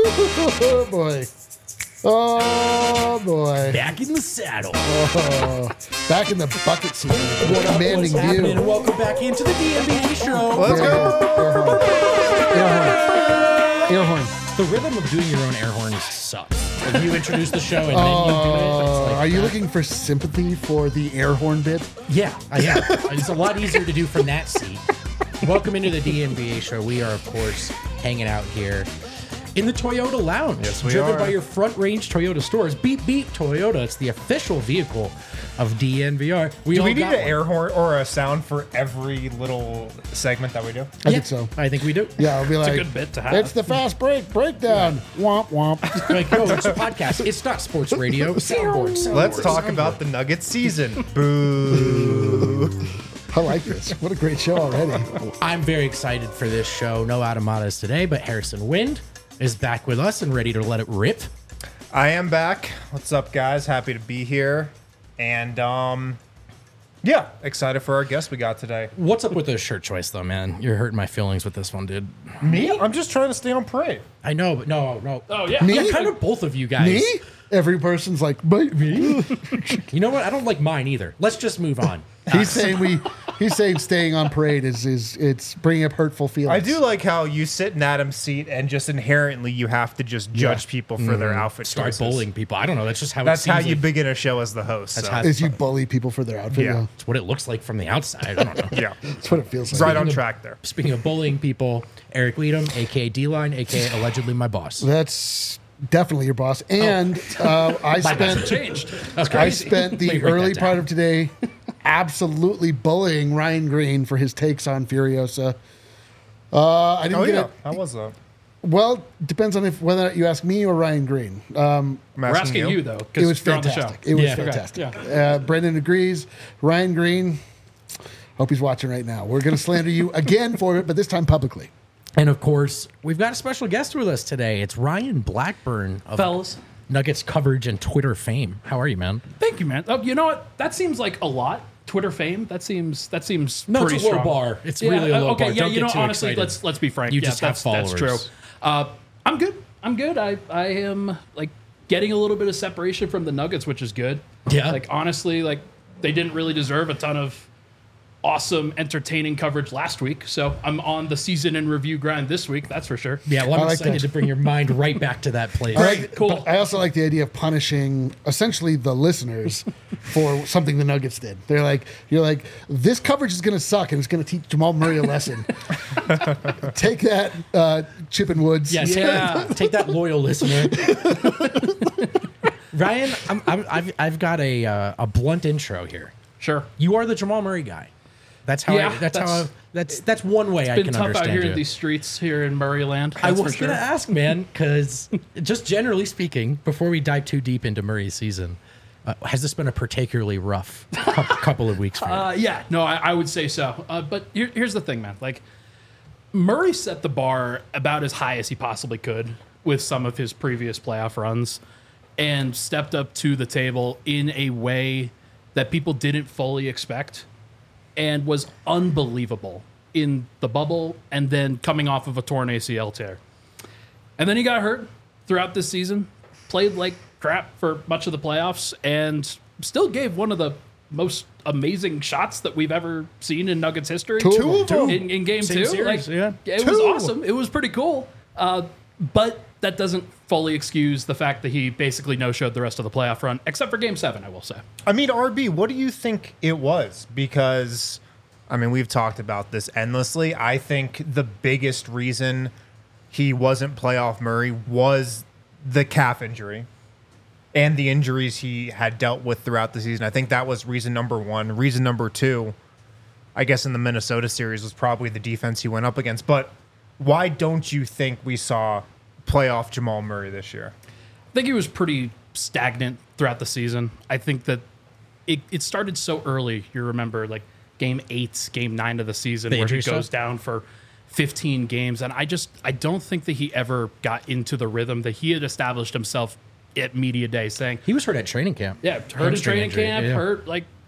Oh, boy. Oh, boy. Back in the saddle. Oh, back in the bucket seat. What a commanding happening? view. Welcome back into the DMB show. Let's go. Air horn. The rhythm of doing your own air horns sucks. Like you introduce the show and then you do it. It's like Are you looking for sympathy for the air horn bit? Yeah, I am. It's a lot easier to do from that seat. Welcome into the DNBA show. We are, of course, hanging out here in the Toyota Lounge. Yes, we driven are. by your Front Range Toyota stores. Beep, beep, Toyota. It's the official vehicle of DNVR. Do we need got an one. air horn or a sound for every little segment that we do? I think so. I think we do. Yeah, I'll be like, good bit to have. It's the fast breakdown. Womp womp. Like, no, it's a podcast. It's not sports radio. Soundboard. Let's talk about the Nuggets season. Boo. I like this. What a great show already. I'm very excited for this show. No Automatas today, but Harrison Wind is back with us and ready to let it rip. I am back. What's up, guys? Happy to be here. And, yeah, excited for our guest we got today. What's up with this shirt choice, though, man? You're hurting my feelings with this one, dude. Me? I'm just trying to stay on parade. I know, but no. Oh, yeah. Me? Yeah, kind of both of you guys. Me? Every person's like, but me? You know what? I don't like mine either. Let's just move on. He's saying staying on parade is it's bringing up hurtful feelings. I do like how you sit in Adam's seat and just inherently you have to just judge people for their outfit Start choices. bullying people. I don't know. That's just how That's it seems how you like. begin a show as the host. That's so. how- Is you bully people for their outfit. Yeah. It's what it looks like from the outside. I don't know. Yeah, That's what it feels like. right on of- track there. Speaking of bullying people, Eric Weedham, a.k.a. D-Line, a.k.a. allegedly my boss. That's definitely your boss. And I spent Changed. I spent Let me the write early that part down. of today absolutely bullying Ryan Green for his takes on Furiosa. I didn't Oh, get yeah. it. How was that? Well, depends on whether you ask me or Ryan Green. I'm We're asking you, though, It because was you're on the fantastic. show. It was Yeah. Okay, fantastic. yeah. Brendan agrees. Ryan Green, hope he's watching right now. We're going to slander you again for it, but this time publicly. And of course, we've got a special guest with us today. It's Ryan Blackburn of Fellas. Nuggets coverage and Twitter fame. How are you, man? Thank you, man. Oh, you know what? That seems like a lot. Twitter fame. That seems No, pretty it's a low strong. bar. It's really a low okay, bar. yeah, Don't you get know, too honestly, excited. let's be frank. You Yeah, just have that's true. followers. I'm good. I'm good. I am like getting a little bit of separation from the Nuggets, which is good. Yeah. Like honestly, like they didn't really deserve a ton of awesome, entertaining coverage last week. So I'm on the season in review grind this week. That's for sure. Yeah, well, I'm I like excited that. to bring your mind right back to that place. I like, cool. but I also like the idea of punishing essentially the listeners for something the Nuggets did. They're like, you're like, this coverage is going to suck and it's going to teach Jamal Murray a lesson. Take that, Chip and Woods. Yes, Yeah. take that, loyal listener. Ryan, I've got a blunt intro here. Sure. You are the Jamal Murray guy. That's how. Yeah, That's one way I Been can tough out understand here you. in these streets here in Murrayland. I that's was for sure. going to ask, man, because just generally speaking, before we dive too deep into Murray's season, has this been a particularly rough couple of weeks for you? Yeah, no, I would say so. But here's the thing, man. Like, Murray set the bar about as high as he possibly could with some of his previous playoff runs and stepped up to the table in a way that people didn't fully expect and was unbelievable in the bubble and then coming off of a torn ACL tear. And then he got hurt throughout this season, played like crap for much of the playoffs, and still gave one of the most amazing shots that we've ever seen in Nuggets history. Two of them. In game Same two. series, yeah. It was awesome. It was pretty cool. But that doesn't fully excuse the fact that he basically no-showed the rest of the playoff run, except for game 7, I will say. I mean, RB, what do you think it was? Because, I mean, we've talked about this endlessly. I think the biggest reason he wasn't playoff Murray was the calf injury and the injuries he had dealt with throughout the season. I think that was reason number one. Reason number two, I guess in the Minnesota series, was probably the defense he went up against. But why don't you think we saw playoff Jamal Murray this year? I think he was pretty stagnant throughout the season. I think that it started so early. You remember, like, game 8, game 9 of the season, The where he injury goes stuff? down for 15 games. And I don't think that he ever got into the rhythm that he had established himself at media day, saying, He was hurt at training camp. yeah, hurt in Hamstring training injury, camp, yeah. hurt like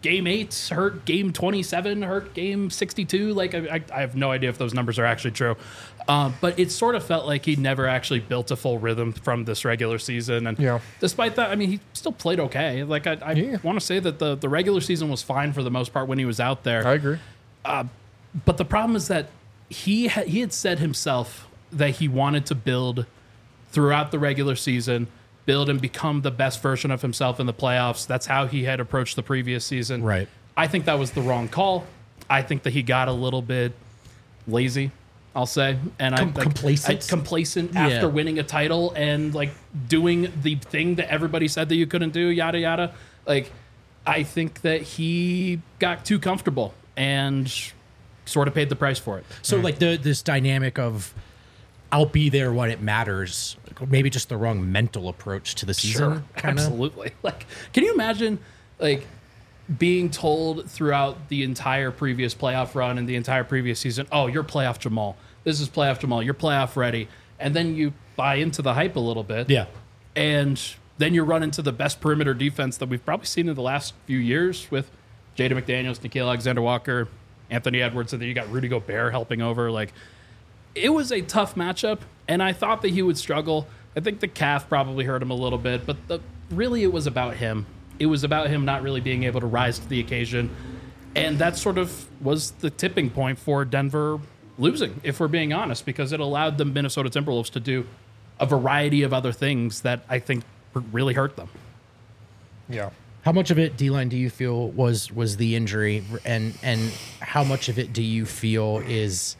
game 8 hurt, game 27 hurt, game 62. Like I have no idea if those numbers are actually true, but it sort of felt like he never actually built a full rhythm from this regular season. And despite that, I mean, he still played okay. Like I want to say that the regular season was fine for the most part when he was out there. I agree. But the problem is that he had said himself that he wanted to build throughout the regular season, build and become the best version of himself in the playoffs. That's how he had approached the previous season. Right. I think that was the wrong call. I think that he got a little bit lazy, I'll say, and complacent after winning a title and like doing the thing that everybody said that you couldn't do, yada yada. Like, I think that he got too comfortable and sort of paid the price for it. So like this dynamic of I'll be there when it matters, maybe just the wrong mental approach to the season. Kinda. Absolutely. Like, can you imagine like being told throughout the entire previous playoff run and the entire previous season, oh, you're playoff Jamal. This is playoff Jamal. You're playoff ready. And then you buy into the hype a little bit. Yeah. And then you run into the best perimeter defense that we've probably seen in the last few years with Jaden McDaniels, Nickeil Alexander-Walker, Anthony Edwards, and then you got Rudy Gobert helping over. Like, it was a tough matchup, and I thought that he would struggle. I think the calf probably hurt him a little bit, but really it was about him. It was about him not really being able to rise to the occasion, and that sort of was the tipping point for Denver losing, if we're being honest, because it allowed the Minnesota Timberwolves to do a variety of other things that I think really hurt them. Yeah. How much of it, D-Line, do you feel was the injury, and how much of it do you feel is,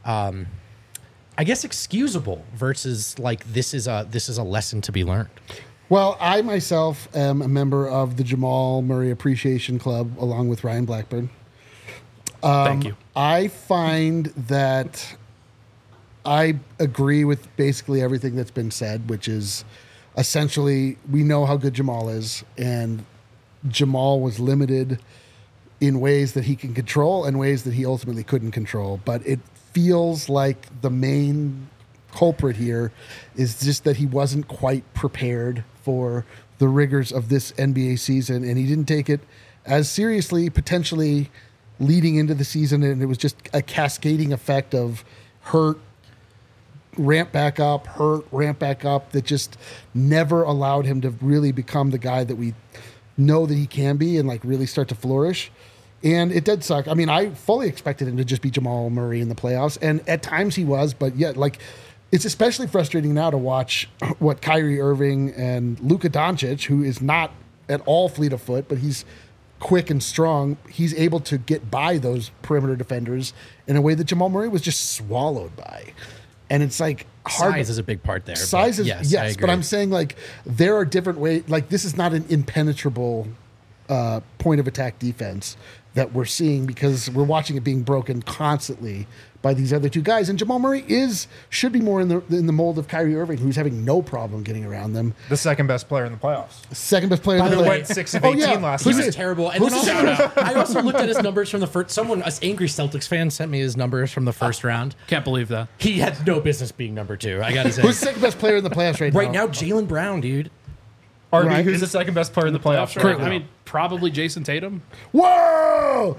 I guess, excusable versus like this is a lesson to be learned? Well, I myself am a member of the Jamal Murray Appreciation Club along with Ryan Blackburn. Thank you. I find that I agree with basically everything that's been said, which is essentially we know how good Jamal is, and Jamal was limited in ways that he can control and ways that he ultimately couldn't control. But it feels like the main culprit here is just that he wasn't quite prepared for the rigors of this NBA season, and he didn't take it as seriously, potentially leading into the season, and it was just a cascading effect of hurt, ramp back up, hurt, ramp back up, that just never allowed him to really become the guy that we know that he can be and like really start to flourish. And it did suck. I mean, I fully expected him to just be Jamal Murray in the playoffs, and at times he was, but yet, like, it's especially frustrating now to watch what Kyrie Irving and Luka Doncic, who is not at all fleet of foot, but he's quick and strong, he's able to get by those perimeter defenders in a way that Jamal Murray was just swallowed by. And it's like hard. Size is a big part there. Size is, yes, but I'm saying like there are different ways. Like this is not an impenetrable point of attack defense that we're seeing, because we're watching it being broken constantly by these other two guys. And Jamal Murray should be more in the mold of Kyrie Irving, who's having no problem getting around them. The second best player in the playoffs. Second best player in the Who playoffs. went 6 of 18 last He night. was terrible. And then also, I also looked at his numbers from the first. An angry Celtics fan sent me his numbers from the first round. Can't believe that. He had no business being number 2. I gotta say. Who's the second best player in the playoffs right now? Right now, Jaylen Brown, dude. RB, Right. who's the second best player in the playoffs? Sure. I mean, probably Jason Tatum. Whoa!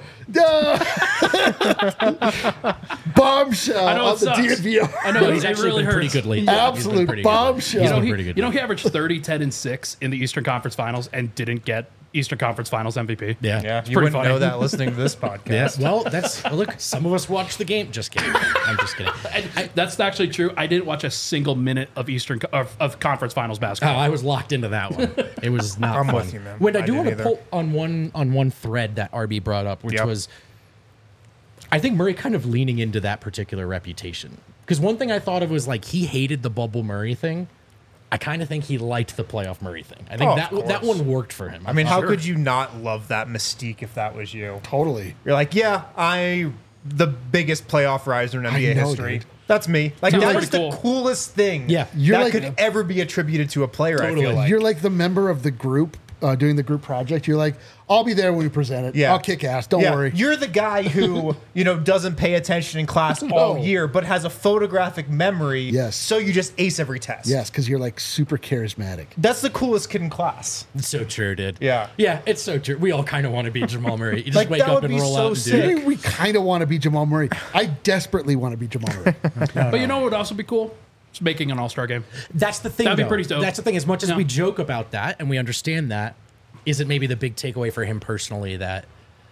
Bombshell I know on it the sucks. DNVR. I know He's it actually really been pretty hurts. good lately. Absolute bombshell. He's You know, been pretty good. he averaged 30, 10, and 6 in the Eastern Conference Finals and didn't get Eastern Conference Finals MVP. Yeah. Yeah, It's you pretty wouldn't funny. know that listening to this podcast. Yes. Well, look. Some of us watch the game. Just kidding. I'm just kidding. And that's actually true. I didn't watch a single minute of of Conference Finals Oh, basketball. I was locked into that one. It was not I'm fun. with you, man. When I I do want to didn't pull on one thread that RB brought up, which Yep. was, I think Murray kind of leaning into that particular reputation. Because one thing I thought of was like he hated the bubble Murray thing. I kind of think he liked the playoff Murray thing. I think Oh, that of that course. one worked for him. I mean, how Sure. could you not love that mystique if that was you? Totally. You're like, yeah, the biggest playoff riser in NBA know, history. dude. That's me. Like, Sounds that's pretty the cool. coolest thing Yeah. You're that like- could ever be attributed to a player, I Totally. feel like. You're like the member of the group doing the group project, you're like, I'll be there when we present it. Yeah. I'll kick ass. Don't worry. You're the guy who, doesn't pay attention in class all year, but has a photographic memory. Yes. So you just ace every test. Yes, because you're like super charismatic. That's the coolest kid in class. It's so true, dude. Yeah. Yeah, it's so true. We all kind of want to be Jamal Murray. You just Like, wake that up would and be roll so out and sick. do I it. mean, we kind of want to be Jamal Murray. I desperately want to be Jamal Murray. But you know what would also be cool? Just making an All-Star game. That's the thing. That'd be though. pretty dope. That's the thing. As much as Yeah. we joke about that and we understand that, is it maybe the big takeaway for him personally that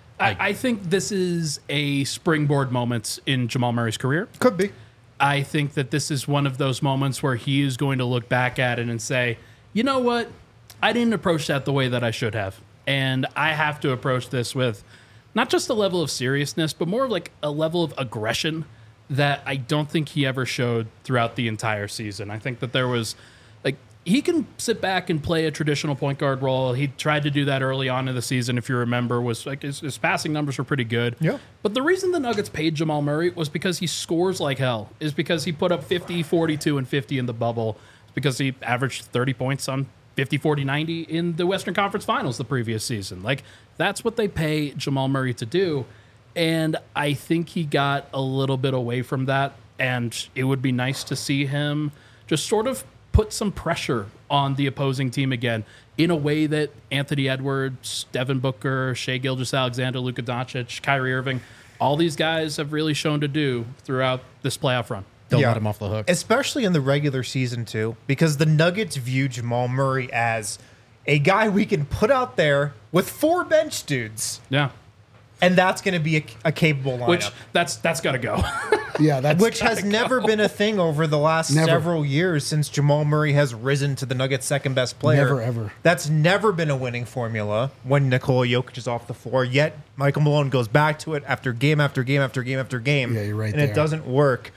I think this is a springboard moment in Jamal Murray's career. Could be. I think that this is one of those moments where he is going to look back at it and say, you know what? I didn't approach that the way that I should have. And I have to approach this with not just a level of seriousness, but more of like a level of aggression that I don't think he ever showed throughout the entire season. I think that there was like, he can sit back and play a traditional point guard role. He tried to do that early on in the season, if you remember, was like his passing numbers were pretty good. Yeah. But the reason the Nuggets paid Jamal Murray was because he scores like hell, is because he put up 50, 42, and 50 in the bubble. It's because he averaged 30 points on 50, 40, 90 in the Western Conference Finals the previous season. Like, that's what they pay Jamal Murray to do. And I think he got a little bit away from that. And it would be nice to see him just sort of put some pressure on the opposing team again in a way that Anthony Edwards, Devin Booker, Shai Gilgeous-Alexander, Luka Doncic, Kyrie Irving, all these guys have really shown to do throughout this playoff run. don't let him off the hook? Especially in the regular season, too, because the Nuggets view Jamal Murray as a guy we can put out there with 4 bench dudes. Yeah. And that's going to be a capable lineup. Which that's got to go. Yeah, that's Which has never been a thing over the last Never. several years since Jamal Murray has risen to the Nuggets' second best player. Never, ever. That's never been a winning formula when Nikola Jokic is off the floor. Yet Michael Malone goes back to it after game after game after game after game. Yeah, you're right And there. it doesn't work.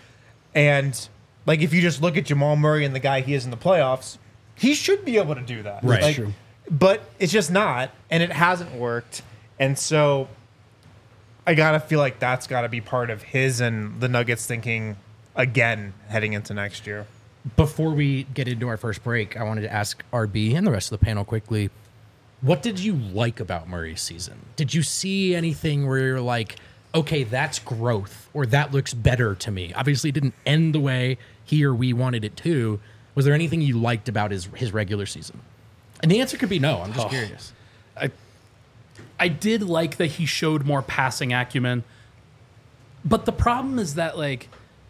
And like if you just look at Jamal Murray and the guy he is in the playoffs, he should be able to do that. Right. Like, True. But it's just not, and it hasn't worked. And so I gotta feel like that's gotta be part of his and the Nuggets thinking again heading into next year. Before we get into our first break, I wanted to ask RB and the rest of the panel quickly, what did you like about Murray's season? Did you see anything where you're like, okay, that's growth, or that looks better to me? Obviously, it didn't end the way he or we wanted it to. Was there anything you liked about his regular season? And the answer could be no. I'm just curious. I did like that he showed more passing acumen. But the problem is that, like,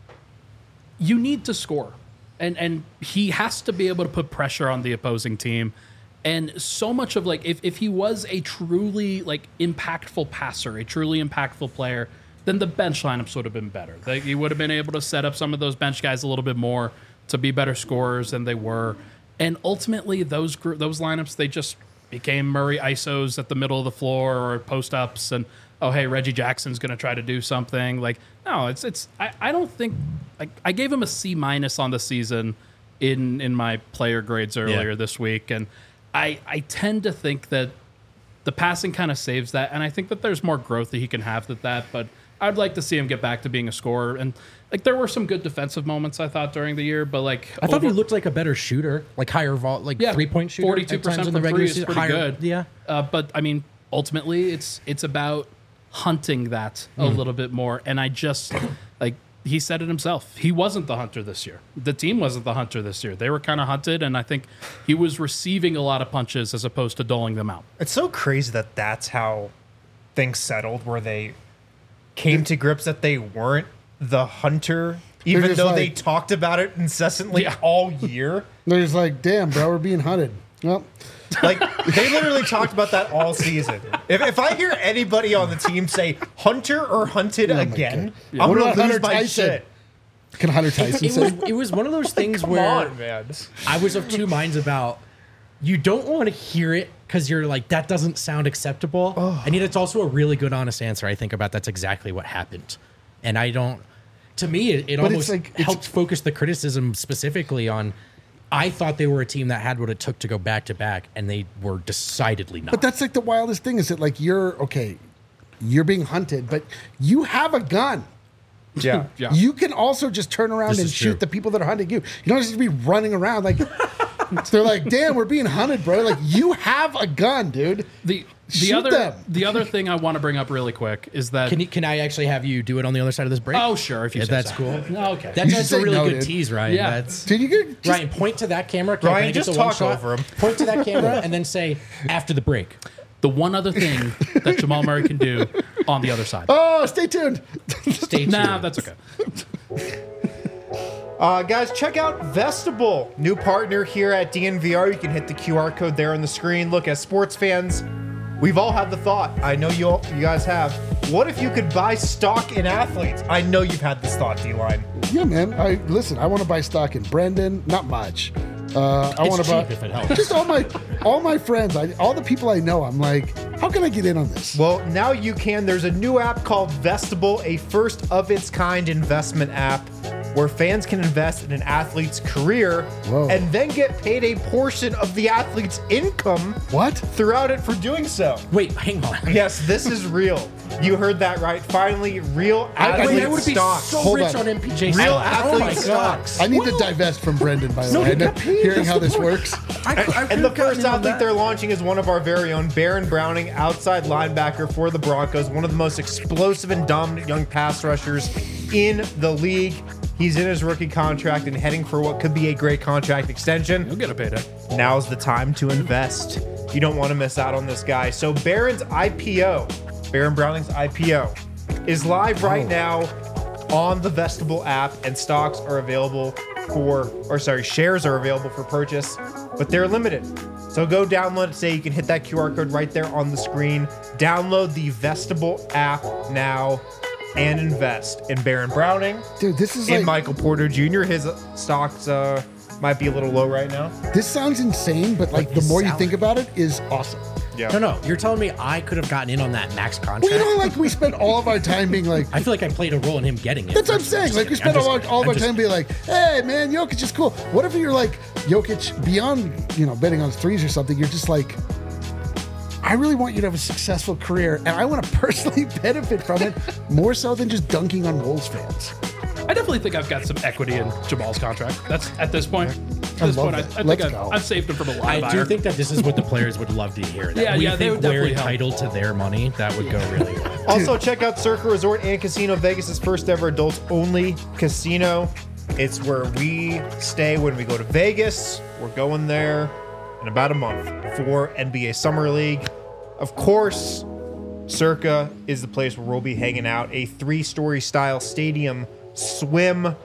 you need to score. And he has to be able to put pressure on the opposing team. And so much of, like, if he was a truly, like, impactful passer, a truly impactful player, then the bench lineups would have been better. He would have been able to set up some of those bench guys a little bit more to be better scorers than they were. And ultimately, those lineups, they just became Murray ISOs at the middle of the floor or post-ups and, oh, hey, Reggie Jackson's going to try to do something. Like, no, I don't think, like, I gave him a C- on the season in my player grades earlier this week. And I tend to think that the passing kind of saves that. And I think that there's more growth that he can have with that. But I'd like to see him get back to being a scorer. And, like, there were some good defensive moments, I thought, during the year. But, like, I thought he looked like a better shooter, like higher three-point shooter. 42% at times in from the regular three is season. pretty Higher- good. Yeah. But I mean, ultimately, it's about hunting that a little bit more. And I just, like, he said it himself. He wasn't the hunter this year. The team wasn't the hunter this year. They were kind of hunted, and I think he was receiving a lot of punches as opposed to doling them out. It's so crazy that that's how things settled, where they came to grips that they weren't the hunter, even just though like- they talked about it incessantly Yeah. all year. They're just like, damn, bro, we're being hunted. Well, Like, they literally talked about that all season. If I hear anybody on the team say hunter or hunted again, God. I'm What going about to lose Hunter my Tyson? shit. can Hunter Tyson say? It was one of those things Come where on, man. I was of two minds about you don't want to hear it because you're like, that doesn't sound acceptable. And yet it's also a really good, honest answer. I think about that's exactly what happened. And I don't, to me, it But almost it's like- it's- helped focus the criticism specifically on, I thought they were a team that had what it took to go back to back, and they were decidedly not. But that's like the wildest thing is that, like, you're being hunted, but you have a gun. Yeah. Yeah. You can also just turn around This and is shoot true. the people that are hunting you. You don't just be running around like They're like, damn, we're being hunted, bro. Like, you have a gun, dude. The Shoot them. other thing I want to bring up really quick is that Can I actually have you do it on the other side of this break? oh sure, if you Yeah, say that's so. cool. No, okay. That's should a say really no, good dude. tease, Ryan. Yeah. That's Dude, you could just, Ryan, point to that camera. Can Ryan, I get just the one talk shot? over him. Point to that camera and then say after the break. The one other thing that Jamal Murray can do on the other side. oh, stay tuned. Stay tuned. Nah, that's okay. Guys, check out Vestibule, new partner here at DNVR. You can hit the QR code there on the screen. Look, as sports fans, we've all had the thought. I know you guys have. What if you could buy stock in athletes? I know you've had this thought, D-Line. Yeah, man. I want to buy stock in Brendan. Not much. I It's want to buy cheap if it helps. just all my friends. All the people I know. I'm like, how can I get in on this? Well, now you can. There's a new app called Vestibule, a first of its kind investment app where fans can invest in an athlete's career Whoa. and then get paid a portion of the athlete's income What? throughout it for doing so. Wait, hang on. Yes, this is real. You heard that right. Finally, real athlete Wait, I would be stocks. so Hold rich on. on MPJ. Real stock. athlete Oh my God. stocks. I need to divest from Brendan, by the No, way. you got paid. Hearing That's how the this point. works. And the first athlete they're launching is one of our very own, Baron Browning, outside linebacker for the Broncos, one of the most explosive and dominant young pass rushers in the league. He's in his rookie contract and heading for what could be a great contract extension. You'll get a payday. Now's the time to invest. You don't want to miss out on this guy. So Baron Browning's IPO, is live right now on the Vestibule app, and stocks are available shares are available for purchase, but they're limited. So go download it. You can hit that QR code right there on the screen. Download the Vestibule app now and invest in Baron Browning, Dude, this is in like, Michael Porter Jr. His stocks might be a little low right now. this sounds insane, but like the his more you salary. think about it, is awesome. Yeah. No, you're telling me I could have gotten in on that max contract? Well, you know, like we spent all of our time being like, I feel like I played a role in him getting it. that's what I'm saying. Like we spent all of our time being like, hey man, Jokic is cool. What if you're like Jokic beyond, betting on threes or something? You're just like, I really want you to have a successful career, and I want to personally benefit from it more so than just dunking on Wolves fans. I definitely think I've got some equity in Jamal's contract. That's at this point. At this love point, I that. think Let's I've, go. I've saved him from a lot of I do iron. think that this is what the players would love to hear. That Yeah, we yeah, they think would we're definitely help. entitled to their money. That would go really well. Also, check out Circa Resort and Casino, Vegas' first ever adults only casino. It's where we stay when we go to Vegas. We're going there in about a month for NBA Summer League. Of course, Circa is the place where we'll be hanging out. A 3-story style stadium swim,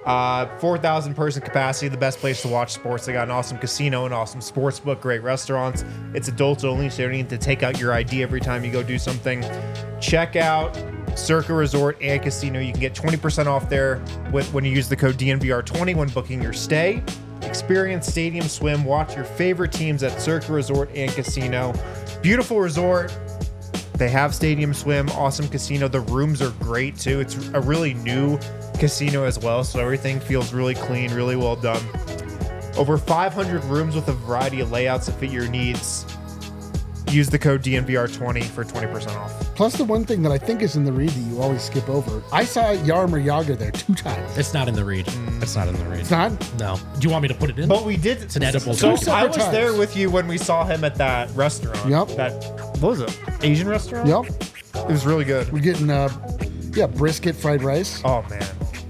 4,000 person capacity, the best place to watch sports. They got an awesome casino, an awesome sports book, great restaurants. It's adults only, so you don't need to take out your ID every time you go do something. Check out Circa Resort and Casino. You can get 20% off there when you use the code DNVR20 when booking your stay. Experience stadium swim, watch your favorite teams at Circa Resort and Casino. Beautiful resort. They have stadium swim, awesome casino. The rooms are great too. It's a really new casino as well, so everything feels really clean, really well done. Over 500 rooms with a variety of layouts that fit your needs. Use the code DNVR20 for 20% off. Plus, the one thing that I think is in the read that you always skip over, I saw Yarmer Yager there 2 times. It's not in the read. It's not in the read. It's not? No. Do you want me to put it in? But we did. It's an edible So food. I was times. there with you when we saw him at that restaurant. Yep. That, what was it? Asian restaurant? Yep. It was really good. We're getting, brisket fried rice. Oh, man.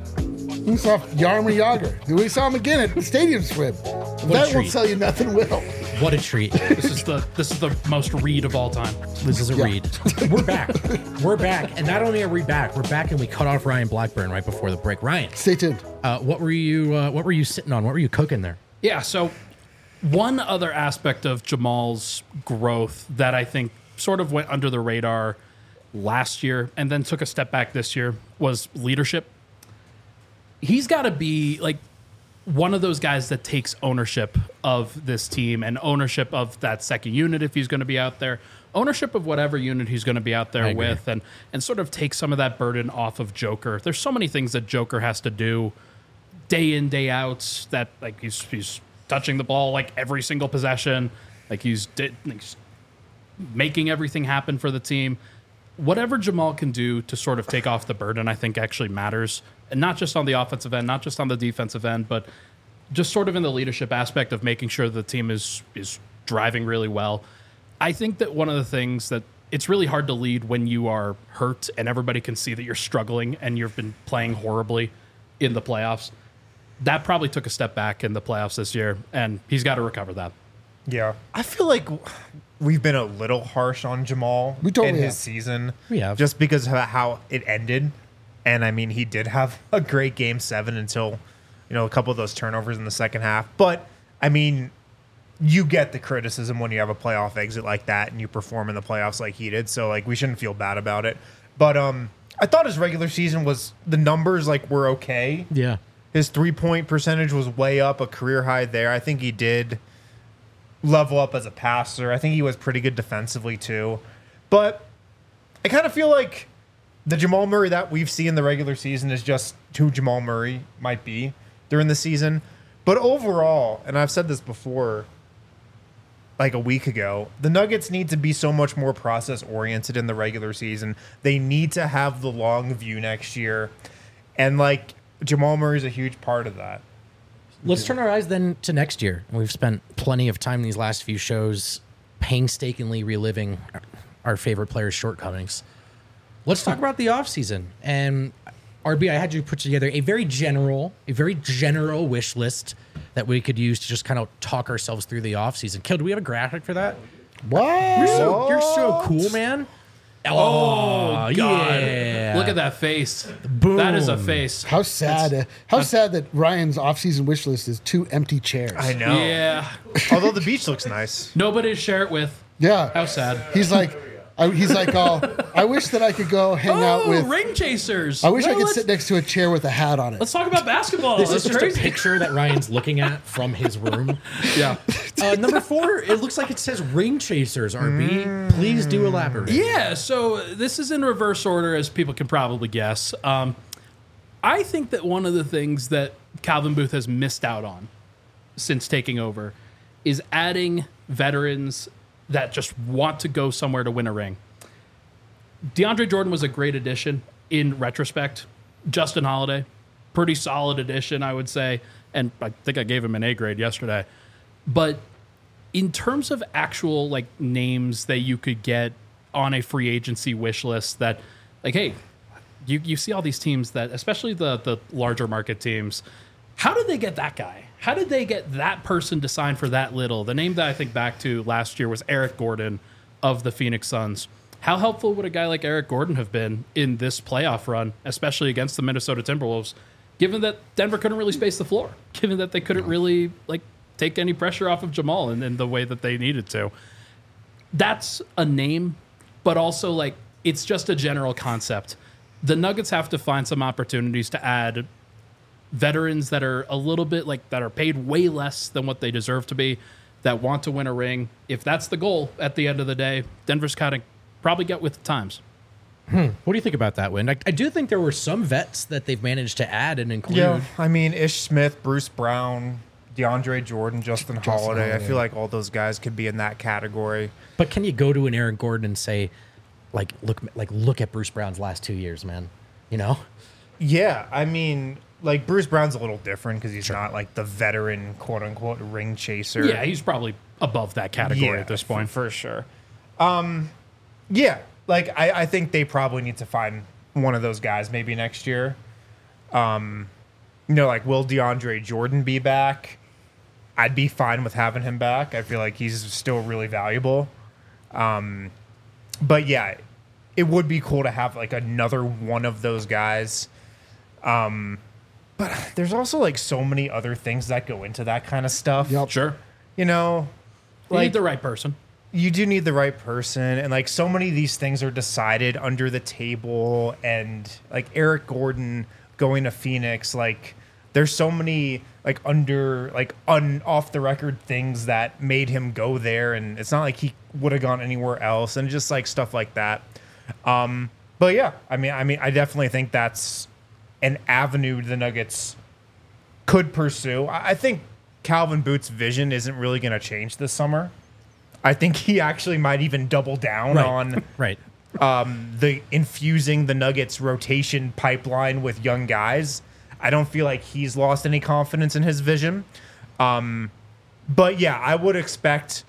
We saw Yarmer Yager. We saw him again at the Stadium Swim. That won't treat. sell you nothing, will. What a treat. This is the most read of all time. This is a Yeah. read. We're back. We're back. And not only are we back, and we cut off Ryan Blackburn right before the break. Ryan, Stay tuned. what were you sitting on? What were you cooking there? Yeah, so one other aspect of Jamal's growth that I think sort of went under the radar last year and then took a step back this year was leadership. He's got to be like one of those guys that takes ownership of this team and ownership of that second unit if he's going to be out there, ownership of whatever unit he's going to be out there agree. with, and sort of take some of that burden off of Joker. There's so many things that Joker has to do day in, day out, that like he's touching the ball like every single possession, like he's making everything happen for the team. Whatever Jamal can do to sort of take off the burden, I think actually matters. And not just on the offensive end, not just on the defensive end, but just sort of in the leadership aspect of making sure the team is driving really well. I think that one of the things that it's really hard to lead when you are hurt and everybody can see that you're struggling and you've been playing horribly in the playoffs. That probably took a step back in the playoffs this year, and he's got to recover that. Yeah. I feel like we've been a little harsh on Jamal totally in his have. season. We have. Just because of how it ended. And, I mean, he did have a great Game 7 until, a couple of those turnovers in the second half. But, I mean, you get the criticism when you have a playoff exit like that and you perform in the playoffs like he did. So, we shouldn't feel bad about it. But I thought his regular season the numbers, were okay. Yeah. His 3-point percentage was way up, a career high there. I think he did level up as a passer. I think he was pretty good defensively too. But I kind of feel like the Jamal Murray that we've seen in the regular season is just who Jamal Murray might be during the season. But overall, and I've said this before, a week ago, the Nuggets need to be so much more process-oriented in the regular season. They need to have the long view next year. And, Jamal Murray is a huge part of that. Let's turn our eyes then to next year. We've spent plenty of time in these last few shows painstakingly reliving our favorite players' shortcomings. Let's talk about the offseason. And RB, I had you put together a very general wish list that we could use to just kind of talk ourselves through the offseason. Kill, do we have a graphic for that? What? You're so cool, man. Oh, God. Yeah. Look at that face. Boom. That is a face. How sad! How sad that Ryan's off-season wish list is 2 empty chairs. I know. Yeah. Although the beach looks nice. Nobody to share it with. Yeah. How sad. He's like, I wish that I could go hang out with. Ring chasers. I wish I Well, could let's- sit next to a chair with a hat on it. Let's talk about basketball. This That's is just crazy. a picture that Ryan's looking at from his room. Yeah. Number 4, it looks like it says Ring Chasers, RB. Please do elaborate. Yeah, so this is in reverse order, as people can probably guess. I think that one of the things that Calvin Booth has missed out on since taking over is adding veterans that just want to go somewhere to win a ring. DeAndre Jordan was a great addition in retrospect. Justin Holiday, pretty solid addition, I would say. And I think I gave him an A grade yesterday. But in terms of actual names that you could get on a free agency wish list that hey, you see all these teams that, especially the larger market teams, how did they get that guy? How did they get that person to sign for that little? The name that I think back to last year was Eric Gordon of the Phoenix Suns. How helpful would a guy like Eric Gordon have been in this playoff run, especially against the Minnesota Timberwolves, given that Denver couldn't really space the floor, given that they couldn't really take any pressure off of Jamal in the way that they needed to? That's a name, but also it's just a general concept. The Nuggets have to find some opportunities to add veterans that are a little bit that are paid way less than what they deserve to be, that want to win a ring. If that's the goal at the end of the day, Denver's kind of probably get with the times. What do you think about that, Win? I do think there were some vets that they've managed to add and include. Yeah. I mean, Ish Smith, Bruce Brown, DeAndre Jordan, Justin Holiday. I feel like all those guys could be in that category. But can you go to an Eric Gordon and say, look at Bruce Brown's last 2 years, man? Yeah. I mean, Bruce Brown's a little different because he's not the veteran, quote unquote, ring chaser. Yeah, he's probably above that category at this point. For sure. Yeah. I think they probably need to find one of those guys maybe next year. Will DeAndre Jordan be back? I'd be fine with having him back. I feel like he's still really valuable. But yeah, it would be cool to have another one of those guys. But there's also so many other things that go into that kind of stuff. Yep. Sure. You Need the right person. You do need the right person, and so many of these things are decided under the table, and Eric Gordon going to Phoenix, there's so many off the record things that made him go there, and it's not like he would have gone anywhere else, and just stuff like that. But yeah, I mean, I definitely think that's an avenue the Nuggets could pursue. I think Calvin Booth's vision isn't really going to change this summer. I think he actually might even double down on Right. the infusing the Nuggets rotation pipeline with young guys. I don't feel like he's lost any confidence in his vision. But yeah, I would expect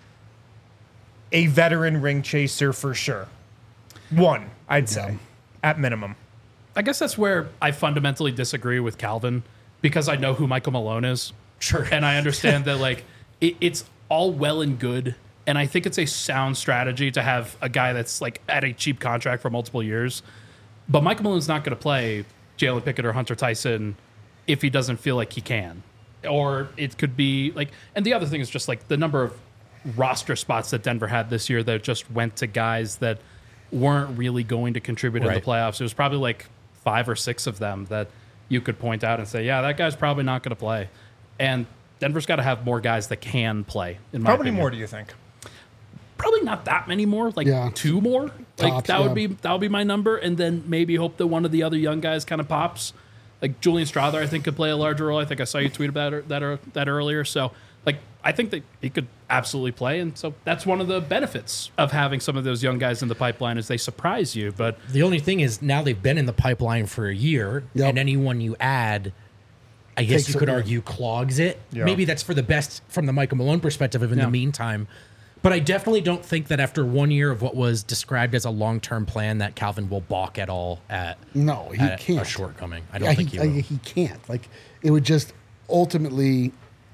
a veteran ring chaser for sure. One, I'd say, at minimum. I guess that's where I fundamentally disagree with Calvin, because I know who Michael Malone is. Sure. And I understand that, like, it's all well and good. And I think it's a sound strategy to have a guy that's, like, at a cheap contract for multiple years. But Michael Malone's not going to play Jalen Pickett or Hunter Tyson if he doesn't feel like he can. Or it could be, like, and the other thing is just, like, the number of roster spots that Denver had this year that just went to guys that weren't really going to contribute in the playoffs. It was probably, like, 5 or 6 of them that you could point out and say, yeah, that guy's probably not going to play. And Denver's got to have more guys that can play, in my opinion. How many more do you think? Probably not that many more, like 2 more. Like that would be my number, and then maybe hope that one of the other young guys kind of pops. Like Julian Strawther, I think could play a larger role. I think I saw you tweet about that earlier. So, like, I think that he could absolutely play, and so that's one of the benefits of having some of those young guys in the pipeline is they surprise you. But the only thing is now they've been in the pipeline for a year, and anyone you add, I guess you could argue, clogs it. Yeah. Maybe that's for the best from the Michael Malone perspective in the meantime. But I definitely don't think that after 1 year of what was described as a long-term plan that Calvin will balk at all at can't. a shortcoming. I don't think he will. He can't. Like, it would just ultimately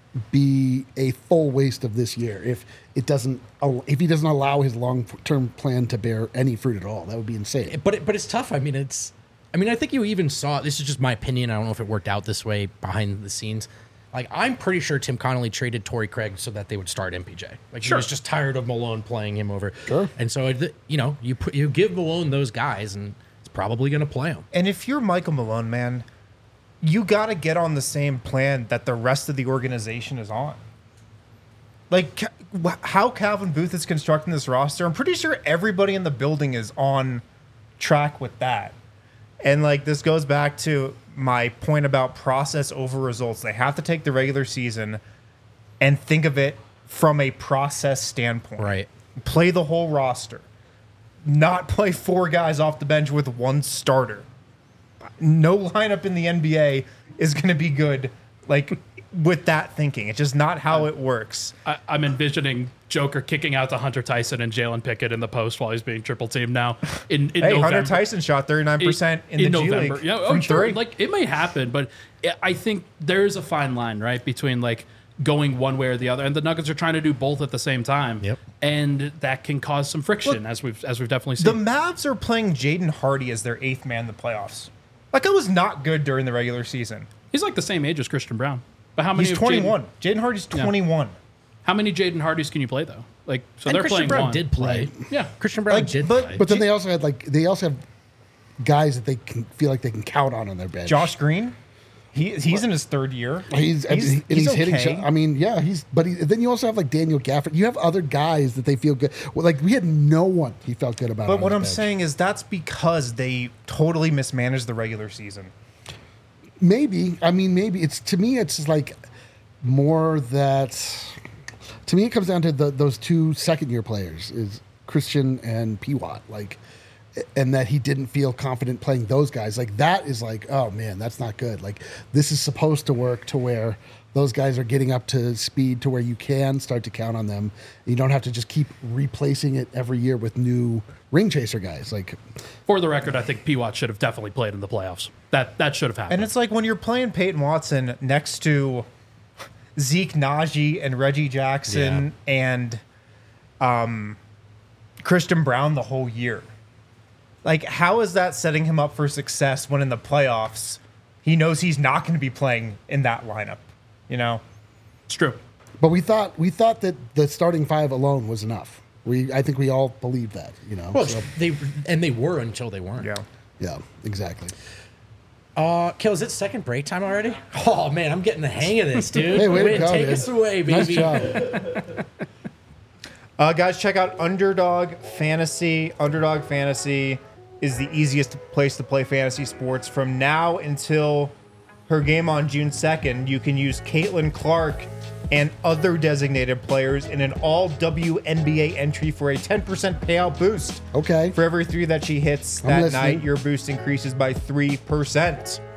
be a full waste of this year if he doesn't allow his long-term plan to bear any fruit at all. That would be insane. But it's tough. I mean, I think you even saw, this is just my opinion, I don't know if it worked out this way behind the scenes. Like, I'm pretty sure Tim Connolly traded Torrey Craig so that they would start MPJ. Like, he was just tired of Malone playing him over. Sure. And so, you give Malone those guys, and it's probably going to play them. And if you're Michael Malone, man, you got to get on the same plan that the rest of the organization is on. Like, how Calvin Booth is constructing this roster, I'm pretty sure everybody in the building is on track with that. And, like, this goes back to my point about process over results. They have to take the regular season and think of it from a process standpoint. Right. Play the whole roster. Not play 4 guys off the bench with 1 starter. No lineup in the NBA is going to be good, like, with that thinking. It's just not how it works. I'm envisioning Joker kicking out to Hunter Tyson and Jalen Pickett in the post while he's being triple teamed now. In November. Hunter Tyson shot 39% in the November. G League from 3. Like, it may happen, but I think there is a fine line, right, between, like, going one way or the other, and the Nuggets are trying to do both at the same time. Yep. And that can cause some friction, as we've definitely seen. The Mavs are playing Jaden Hardy as their 8th man in the playoffs. Like, it was not good during the regular season. He's like the same age as Christian Brown. But how many? He's 21. Jaden Hardy's 21. How many Jaden Hardys can you play though? Like, so And they're Christian playing Brown one. did play. Yeah, Christian Brown did play. But then they also have guys that they can feel like they can count on their bench. Josh Green, he's in his 3rd year. He's hitting okay. shots. I mean, yeah, then you also have like Daniel Gafford. You have other guys that they feel good. Well, like, we had no one he felt good about. But on what his I'm bench. saying is that's because they totally mismanaged the regular season. Maybe. I mean, maybe it's, to me, it's just like more that. To me, it comes down to those 2 second-year players, is Christian and P. Watt, like, and that he didn't feel confident playing those guys. Like, that is like, oh man, that's not good. Like, this is supposed to work to where those guys are getting up to speed to where you can start to count on them. You don't have to just keep replacing it every year with new ring chaser guys. Like, for the record, I think P. Watt should have definitely played in the playoffs. That should have happened. And it's like when you're playing Peyton Watson next to Zeke Naji and Reggie Jackson and Christian Brown the whole year. Like, how is that setting him up for success when in the playoffs he knows he's not going to be playing in that lineup? You know, it's true. but we thought that the starting 5 alone was enough. I think we all believed that, you know. Well, so, they were until they weren't. yeah, exactly. Kill, is it second break time already? Oh man, I'm getting the hang of this, dude. Hey, way to go, take dude. us away, baby. Nice job. guys, check out Underdog Fantasy. Underdog Fantasy is the easiest place to play fantasy sports. From now until her game on June 2nd, you can use Caitlin Clark and other designated players in an all WNBA entry for a 10% payout boost. Okay. For every 3 that she hits I'm that listening. night, your boost increases by 3%.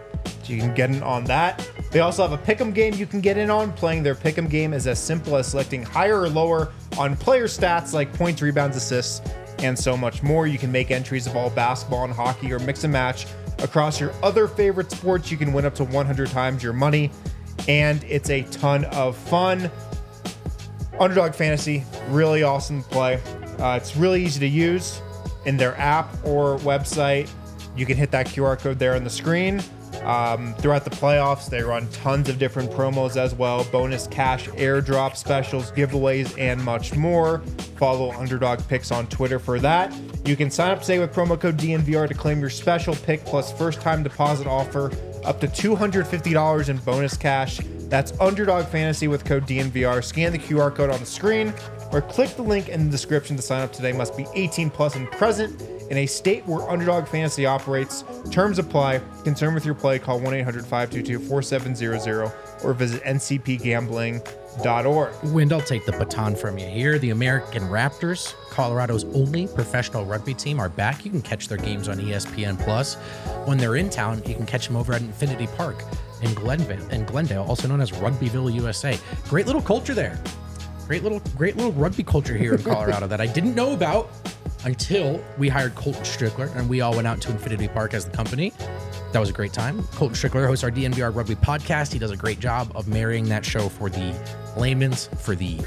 You can get in on that. They also have a pick'em game you can get in on. Playing their pick'em game is as simple as selecting higher or lower on player stats like points, rebounds, assists, and so much more. You can make entries of all basketball and hockey or mix and match across your other favorite sports. You can win up to 100 times your money, and it's a ton of fun. Underdog Fantasy, really awesome to play. It's really easy to use in their app or website. You can hit that QR code there on the screen. Throughout the playoffs, they run tons of different promos as well, bonus cash airdrop specials, giveaways, and much more. Follow Underdog Picks on Twitter for that. You can sign up today with promo code DNVR to claim your special pick plus first-time deposit offer up to $250 in bonus cash. That's Underdog Fantasy with code DNVR. Scan the QR code on the screen or click the link in the description to sign up today. Must be 18 plus and present in a state where Underdog Fantasy operates. Terms apply. Concerned with your play, call 1-800-522-4700 or visit ncpgambling.org. Wind, I'll take the baton from you here. The American Raptors, Colorado's only professional rugby team, are back. You can catch their games on ESPN Plus. When they're in town, you can catch them over at Infinity Park in Glendale, also known as Rugbyville, USA. Great little culture there. Great little rugby culture here in Colorado that I didn't know about until we hired Colton Strickler and we all went out to Infinity Park as the company. That was a great time. Colton Strickler hosts our DNVR Rugby podcast. He does a great job of marrying that show for the layman's, for the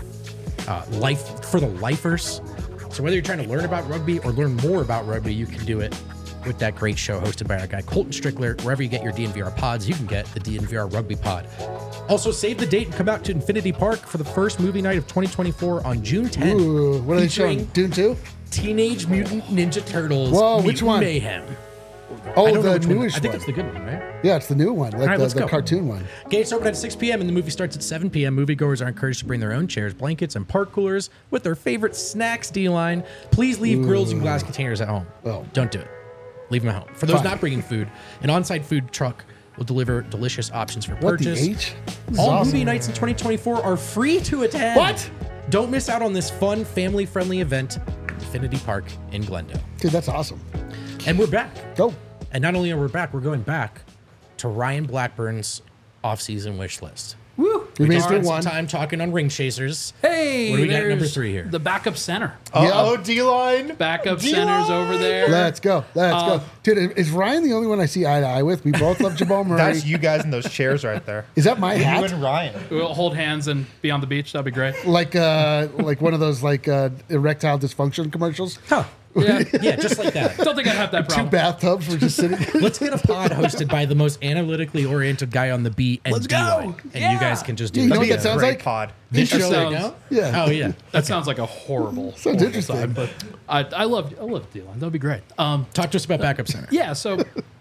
lifers. So whether you're trying to learn about rugby or learn more about rugby, you can do it with that great show hosted by our guy Colton Strickler. Wherever you get your DNVR pods, you can get the DNVR Rugby Pod. Also, save the date and come out to Infinity Park for the first movie night of 2024 on June 10th. Ooh, what are they showing? Dune 2? Teenage Mutant Ninja Turtles. Whoa, which Mutant one? Mayhem. Oh, I don't know the which one. newish I think one. that's the good one, right? Yeah, it's the new one, like right, let's the go. cartoon one. Gates open at 6 p.m. and the movie starts at 7 p.m. Moviegoers are encouraged to bring their own chairs, blankets, and park coolers with their favorite snacks D-line. Please leave grills and glass containers at home. Oh. Don't do it. Leave them at home. For those Fine. not bringing food, an on-site food truck will deliver delicious options for What the purchase. H? This is All awesome. movie nights in 2024 are free to attend. What? Don't miss out on this fun, family-friendly event at Infinity Park in Glendale. Dude, that's awesome. And we're back. Go. And not only are we back, we're going back to Ryan Blackburn's off-season wish list. Woo! We made it Spent through some one. time talking on ring chasers. Hey, What do we got at number there's 3 here? The backup center. Uh-oh, D-line. Backup D-line. center's over there. Let's go. Let's go. Dude, is Ryan the only one I see eye to eye with? We both love Jamal Murray. That's you guys in those chairs right there. Is that my You hat? and Ryan. We'll hold hands and be on the beach. That'd be great. Like one of those erectile dysfunction commercials? Huh. Yeah. Yeah, just like that. Don't think I'd have that Two problem. bathtubs were just sitting. Let's get a pod hosted by the most analytically oriented guy on the beat and Let's D-line. go. And Yeah. you guys can just do You know it. what That'd that be a sounds great like? pod. This That show right sounds- now? Yeah. Oh, yeah. That sounds like a horrible. Sounds horrible interesting. side, but I love D-line. That'd be great. Talk to us about backup center. Yeah, so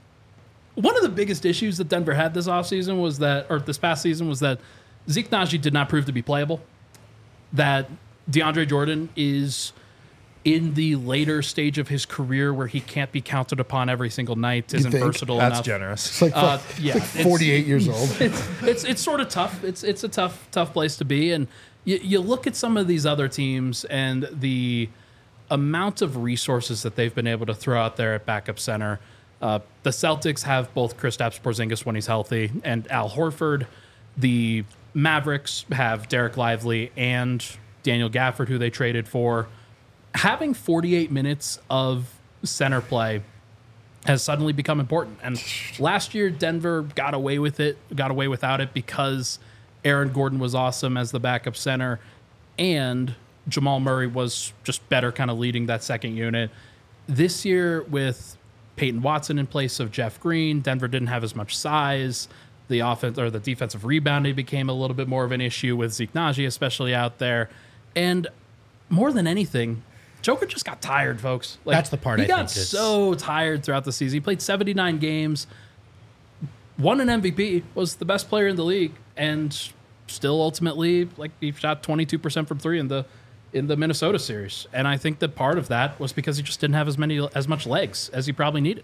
one of the biggest issues that Denver had this offseason was that, or this past season, was that Zeke Nnaji did not prove to be playable. That DeAndre Jordan is in the later stage of his career where he can't be counted upon every single night, isn't think? versatile That's enough. generous. It's like, Yeah, like 48 years old. It's sort of tough. It's a tough place to be, and you look at some of these other teams and the amount of resources that they've been able to throw out there at backup center. The Celtics have both Kristaps Porzingis when he's healthy and Al Horford. The Mavericks have Derek Lively and Daniel Gafford, who they traded for. Having 48 minutes of center play has suddenly become important. And last year, Denver got away without it because Aaron Gordon was awesome as the backup center, and Jamal Murray was just better kind of leading that second unit. This year, with Peyton Watson in place of Jeff Green, Denver didn't have as much size. The offense or the defensive rebounding became a little bit more of an issue with Zeke Nnaji, especially out there. And more than anything, Joker just got tired, folks. Like, That's the part he I got think is- so tired throughout the season. He played 79 games, won an MVP, was the best player in the league, and still ultimately, like, he shot 22% from three in the Minnesota series. And I think that part of that was because he just didn't have as much legs as he probably needed.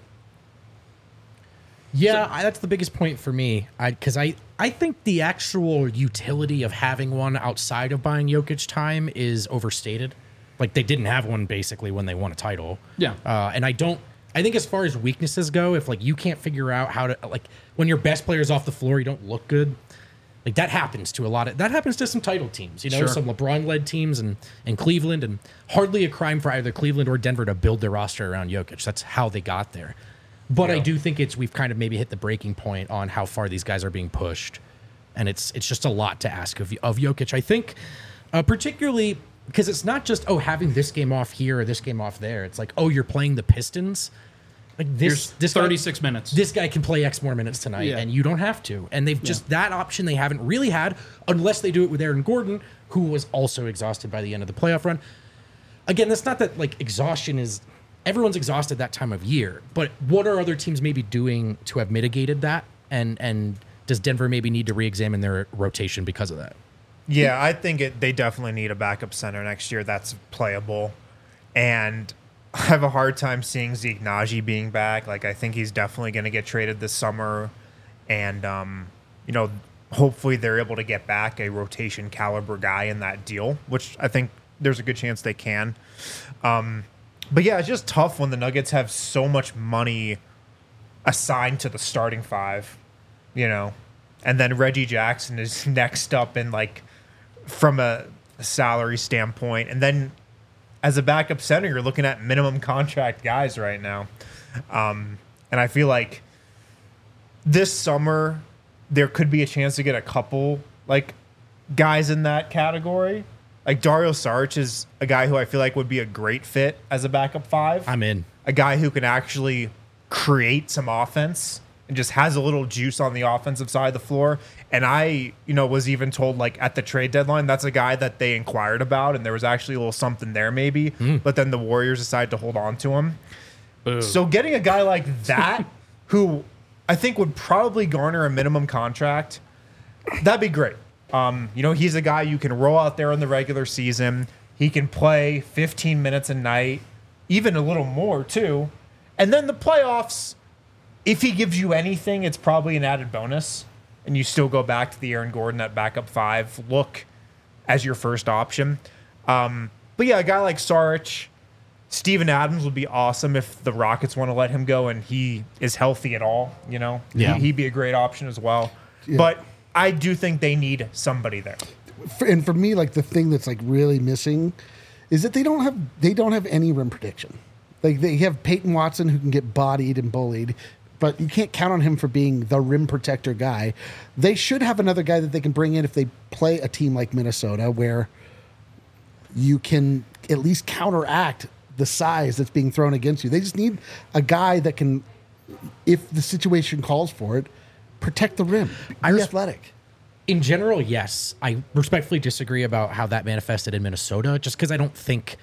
Yeah, that's the biggest point for me. Because I think the actual utility of having one outside of buying Jokic time is overstated. Like, they didn't have one basically when they won a title. Yeah. And I don't I think as far as weaknesses go, if like you can't figure out how to like when your best player's off the floor, you don't look good. Like that happens to that happens to some title teams, you know, Sure. some LeBron-led teams and Cleveland, and hardly a crime for either Cleveland or Denver to build their roster around Jokic. That's how they got there. But I do think we've kind of maybe hit the breaking point on how far these guys are being pushed, and it's just a lot to ask of Jokic. I think, particularly because it's not just having this game off here or this game off there. It's like you're playing the Pistons. Like this 36 minutes. This guy can play X more minutes tonight, and you don't have to. And they've just that option they haven't really had unless they do it with Aaron Gordon, who was also exhausted by the end of the playoff run. Again, that's not that like exhaustion is everyone's exhausted that time of year, but what are other teams maybe doing to have mitigated that? And does Denver maybe need to re-examine their rotation because of that? Yeah, I think they definitely need a backup center next year that's playable. And I have a hard time seeing Zeke Naji being back. Like, I think he's definitely going to get traded this summer. And, hopefully they're able to get back a rotation caliber guy in that deal, which I think there's a good chance they can. But yeah, it's just tough when the Nuggets have so much money assigned to the starting five, and then Reggie Jackson is next up in like from a salary standpoint. And then as a backup center, you're looking at minimum contract guys right now. And I feel like this summer there could be a chance to get a couple like guys in that category. Like Dario Saric is a guy who I feel like would be a great fit as a backup five. I'm in. A guy who can actually create some offense and just has a little juice on the offensive side of the floor. And I, was even told like at the trade deadline, that's a guy that they inquired about, and there was actually a little something there maybe. But then the Warriors decided to hold on to him. Boo. So getting a guy like that, who I think would probably garner a minimum contract, that'd be great. He's a guy you can roll out there in the regular season. He can play 15 minutes a night, even a little more too. And then the playoffs, if he gives you anything, it's probably an added bonus. And you still go back to the Aaron Gordon at backup five look as your first option. But yeah, a guy like Saric, Steven Adams would be awesome if the Rockets want to let him go and he is healthy at all. Yeah. He'd be a great option as well. Yeah. But I do think they need somebody there. And for me, like the thing that's like really missing is that they don't have any rim protection. Like they have Peyton Watson who can get bodied and bullied, but you can't count on him for being the rim protector guy. They should have another guy that they can bring in if they play a team like Minnesota, where you can at least counteract the size that's being thrown against you. They just need a guy that can, if the situation calls for it, protect the rim. Be athletic. In general, yes. I respectfully disagree about how that manifested in Minnesota, just because I don't think,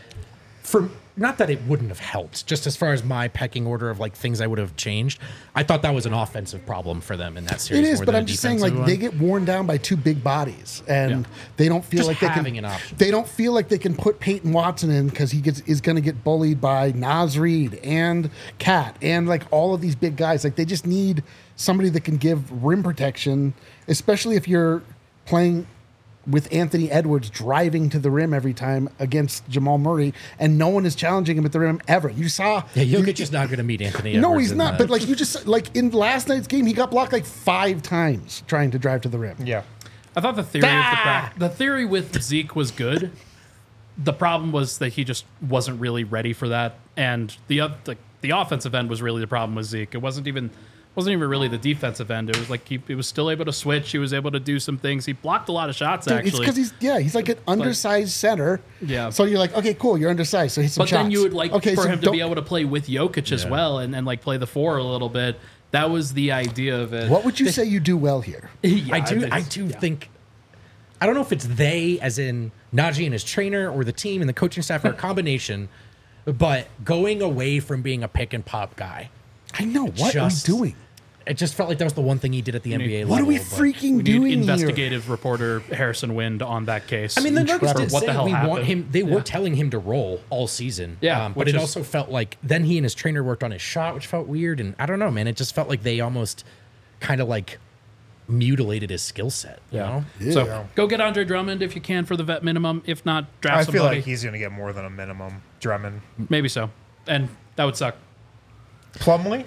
not that it wouldn't have helped, just as far as my pecking order of like things I would have changed. I thought that was an offensive problem for them in that series. It is, more but than I'm a just saying, defensive like one. they get worn down by two big bodies, and Yeah. they don't feel Just like they having can. an option. They don't feel like they can put Peyton Watson in because is going to get bullied by Naz Reid and Cat and like all of these big guys. Like they just need somebody that can give rim protection, especially if you're playing with Anthony Edwards driving to the rim every time against Jamal Murray, and no one is challenging him at the rim ever. You saw, Jokic is not going to meet Anthony no, Edwards he's in not. that. But like you just like in last night's game, he got blocked like 5 times trying to drive to the rim. Yeah. I thought the theory with Zeke was good. The problem was that he just wasn't really ready for that, and the offensive end was really the problem with Zeke. It wasn't even really the defensive end. It was like he was still able to switch. He was able to do some things. He blocked a lot of shots. Dude, it's actually, because he's like an undersized center. Yeah. So you're like, okay, cool, you're undersized. So hit some but shots. then you would like okay, for so him to be able to play with Jokic as well, and like play the 4 a little bit. That was the idea of it. What would you say you do well here? Yeah, I do think. I don't know if it's they, as in Najee and his trainer, or the team and the coaching staff, or a combination. But going away from being a pick and pop guy, I know. What are we doing? It just felt like that was the one thing he did at the NBA level. What are we but- freaking We need doing here? investigative reporter Harrison Wind on that case. I mean, the Nuggets did what say the hell we want happened. him. They were telling him to roll all season. Yeah, but which it is- also felt like then he and his trainer worked on his shot, which felt weird. And I don't know, man. It just felt like they almost kind of like mutilated his skill set. You know? So go get Andre Drummond if you can for the vet minimum. If not, draft I somebody. feel like he's going to get more than a minimum. Drummond. Maybe so, and that would suck. Plumlee,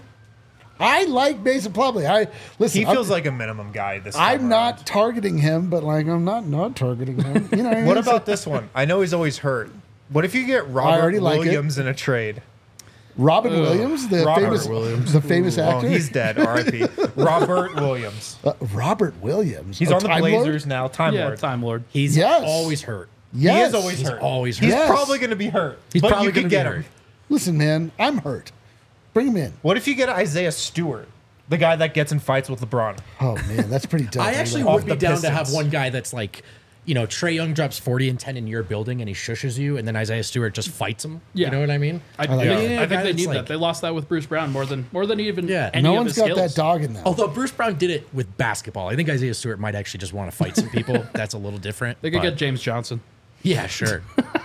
I like Mason Plumlee. he feels like a minimum guy this time I'm not around. targeting him, but like I'm not targeting him. You know what I mean? What about this one? I know he's always hurt. What if you get Robert already like it. Williams in a trade? Robin Williams, the Robert famous Williams. the famous Oh, actor? he's dead. R.I.P. Robert Williams. Robert Williams. He's Oh, on the Time Lord? Blazers now. Time Yeah, Lord. Time Lord. He's Yes. always hurt. Yes. He is always He's hurt. always He's hurt. Yes. probably going to be hurt. He's but probably you gonna can be get hurt. him. Listen, man, I'm hurt. Bring him in. What if you get Isaiah Stewart, the guy that gets in fights with LeBron? Oh man, that's pretty dope. I actually Off would be the down to have Pistons. one guy that's like, Trae Young drops 40 and 10 in your building and he shushes you, and then Isaiah Stewart just fights him. Yeah. You know what I mean? I, like yeah, that. Yeah, I think guy they that's need like- that. They lost that with Bruce Brown more than even Yeah. any no of one's his got skills. that dog in them. Although Bruce Brown did it with basketball. I think Isaiah Stewart might actually just want to fight some people. That's a little different. They could but- get James Johnson. Yeah, sure.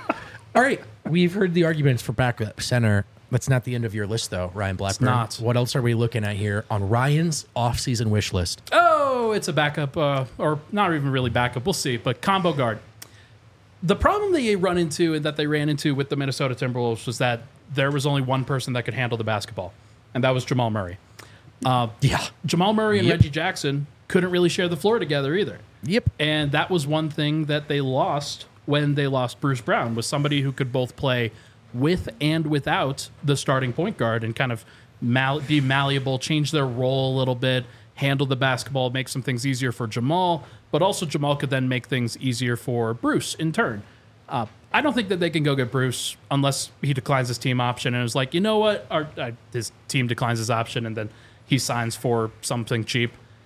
All right. We've heard the arguments for backup center. That's not the end of your list, though, Ryan Blackburn. not. What else are we looking at here on Ryan's offseason wish list? Oh, it's a backup, or not even really backup. We'll see. But combo guard. The problem they ran into with the Minnesota Timberwolves was that there was only one person that could handle the basketball, and that was Jamal Murray. Yeah. Jamal Murray and Yep. Reggie Jackson couldn't really share the floor together either. Yep. And that was one thing that they lost when they lost Bruce Brown, was somebody who could both play with and without the starting point guard and kind of be malleable, change their role a little bit, handle the basketball, make some things easier for Jamal, but also Jamal could then make things easier for Bruce in turn. I don't think that they can go get Bruce unless he declines his team option and is like, you know what, his team declines his option and then he signs for something cheap.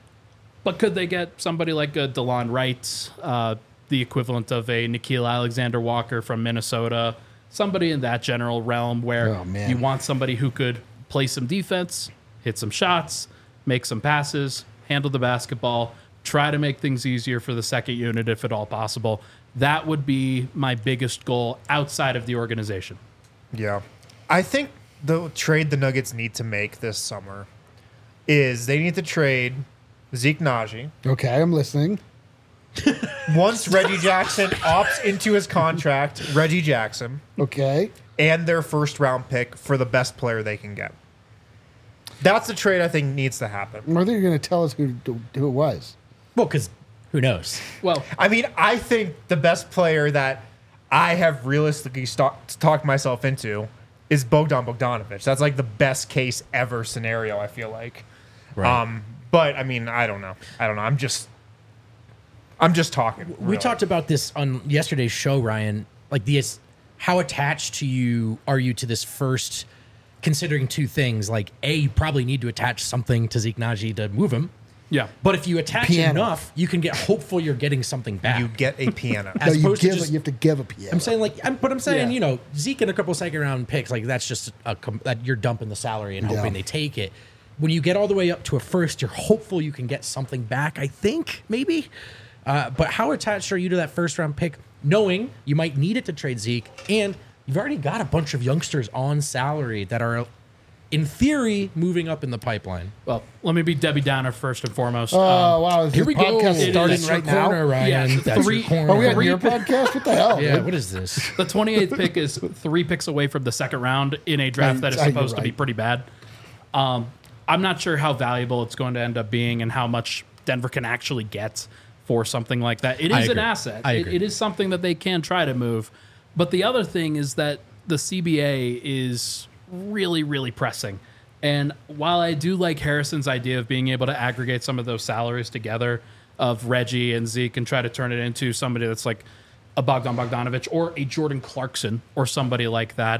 But could they get somebody like a DeLon Wright, the equivalent of a Nickeil Alexander-Walker from Minnesota, somebody in that general realm where Oh, man. you want somebody who could play some defense, hit some shots, make some passes, handle the basketball, try to make things easier for the second unit if at all possible. That would be my biggest goal outside of the organization. Yeah. I think the trade the Nuggets need to make this summer is they need to trade Zeke Naji. Okay, I'm listening. Once Reggie Jackson opts into his contract, Reggie Jackson, Okay. and their first round pick for the best player they can get. That's the trade I think needs to happen. I think you're going to tell us who it was. Well, because who knows? Well, I mean, I think the best player that I have realistically talked myself into is Bogdan Bogdanovic. That's like the best case ever scenario, I feel like. Right. But I mean, I don't know. I'm just talking. We really. talked about this on yesterday's show, Ryan. Like, how attached to you are you to this first, considering two things? Like, A, you probably need to attach something to Zeke Naji to move him. yeah. But if you attach Piano. enough, you can get hopeful you're getting something back. You get a piano. As No, you opposed to give just- it. You have to give a piano. I'm saying I'm saying, Yeah. Zeke and a couple second round picks, like that's just that you're dumping the salary and hoping Yeah. they take it. When you get all the way up to a first, you're hopeful you can get something back. I think maybe, but how attached are you to that first round pick, knowing you might need it to trade Zeke, and you've already got a bunch of youngsters on salary that are, in theory, moving up in the pipeline. Well, let me be Debbie Downer first and foremost. Oh, wow. Is Here this we go. podcast It starting is right That's your now? corner, Ryan. Yeah, That's three- your corner. Are we on Three your pick- podcast? What the hell? Yeah, dude? what is this? The 28th pick is 3 picks away from the second round in a draft that is You're supposed to be right. pretty bad. I'm not sure how valuable it's going to end up being and how much Denver can actually get for something like that. It I is an agree. asset. I agree. It is something that they can try to move. But the other thing is that the CBA is really, really pressing. And while I do like Harrison's idea of being able to aggregate some of those salaries together of Reggie and Zeke and try to turn it into somebody that's like a Bogdan Bogdanovic or a Jordan Clarkson or somebody like that,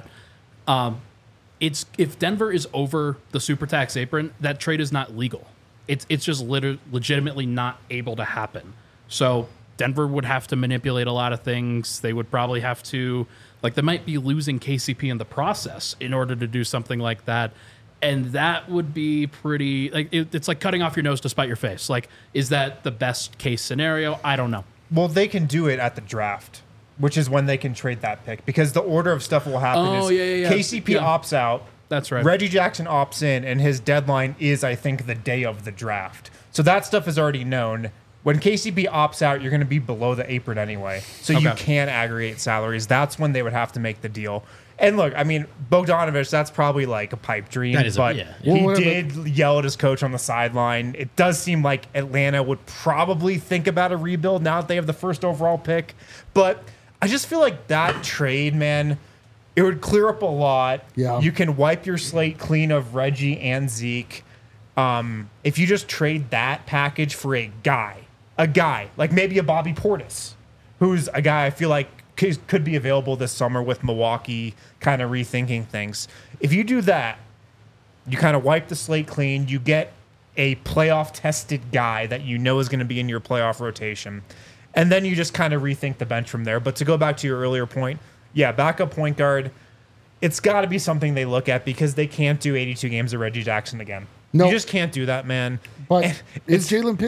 it's if Denver is over the super tax apron, that trade is not legal. It's just legitimately not able to happen. So Denver would have to manipulate a lot of things. They would probably have to, like, they might be losing KCP in the process in order to do something like that. And that would be pretty, like, it's like cutting off your nose to spite your face. Like, is that the best case scenario? I don't know. Well, they can do it at the draft, which is when they can trade that pick, because the order of stuff will happen Oh, is yeah. KCP Yeah. opts out. That's right. Reggie Jackson opts in, and his deadline is, I think, the day of the draft. So that stuff is already known. when KCP opts out, you're going to be below the apron anyway. So you Okay. can aggregate salaries. That's when they would have to make the deal. And look, I mean, Bogdanovich, that's probably like a pipe dream. That is but yeah. he Well, did yell at his coach on the sideline. It does seem like Atlanta would probably think about a rebuild now that they have the first overall pick. But I just feel like that trade, man, it would clear up a lot. Yeah. You can wipe your slate clean of Reggie and Zeke. If you just trade that package for a guy, like maybe a Bobby Portis, who's a guy I feel like could be available this summer with Milwaukee kind of rethinking things. If you do that, you kind of wipe the slate clean. You get a playoff tested guy that you know is going to be in your playoff rotation. And then you just kind of rethink the bench from there. But to go back to your earlier point, yeah, backup point guard, it's got to be something they look at because they can't do 82 games of Reggie Jackson again. No. You just can't do that, man. But And is Jalen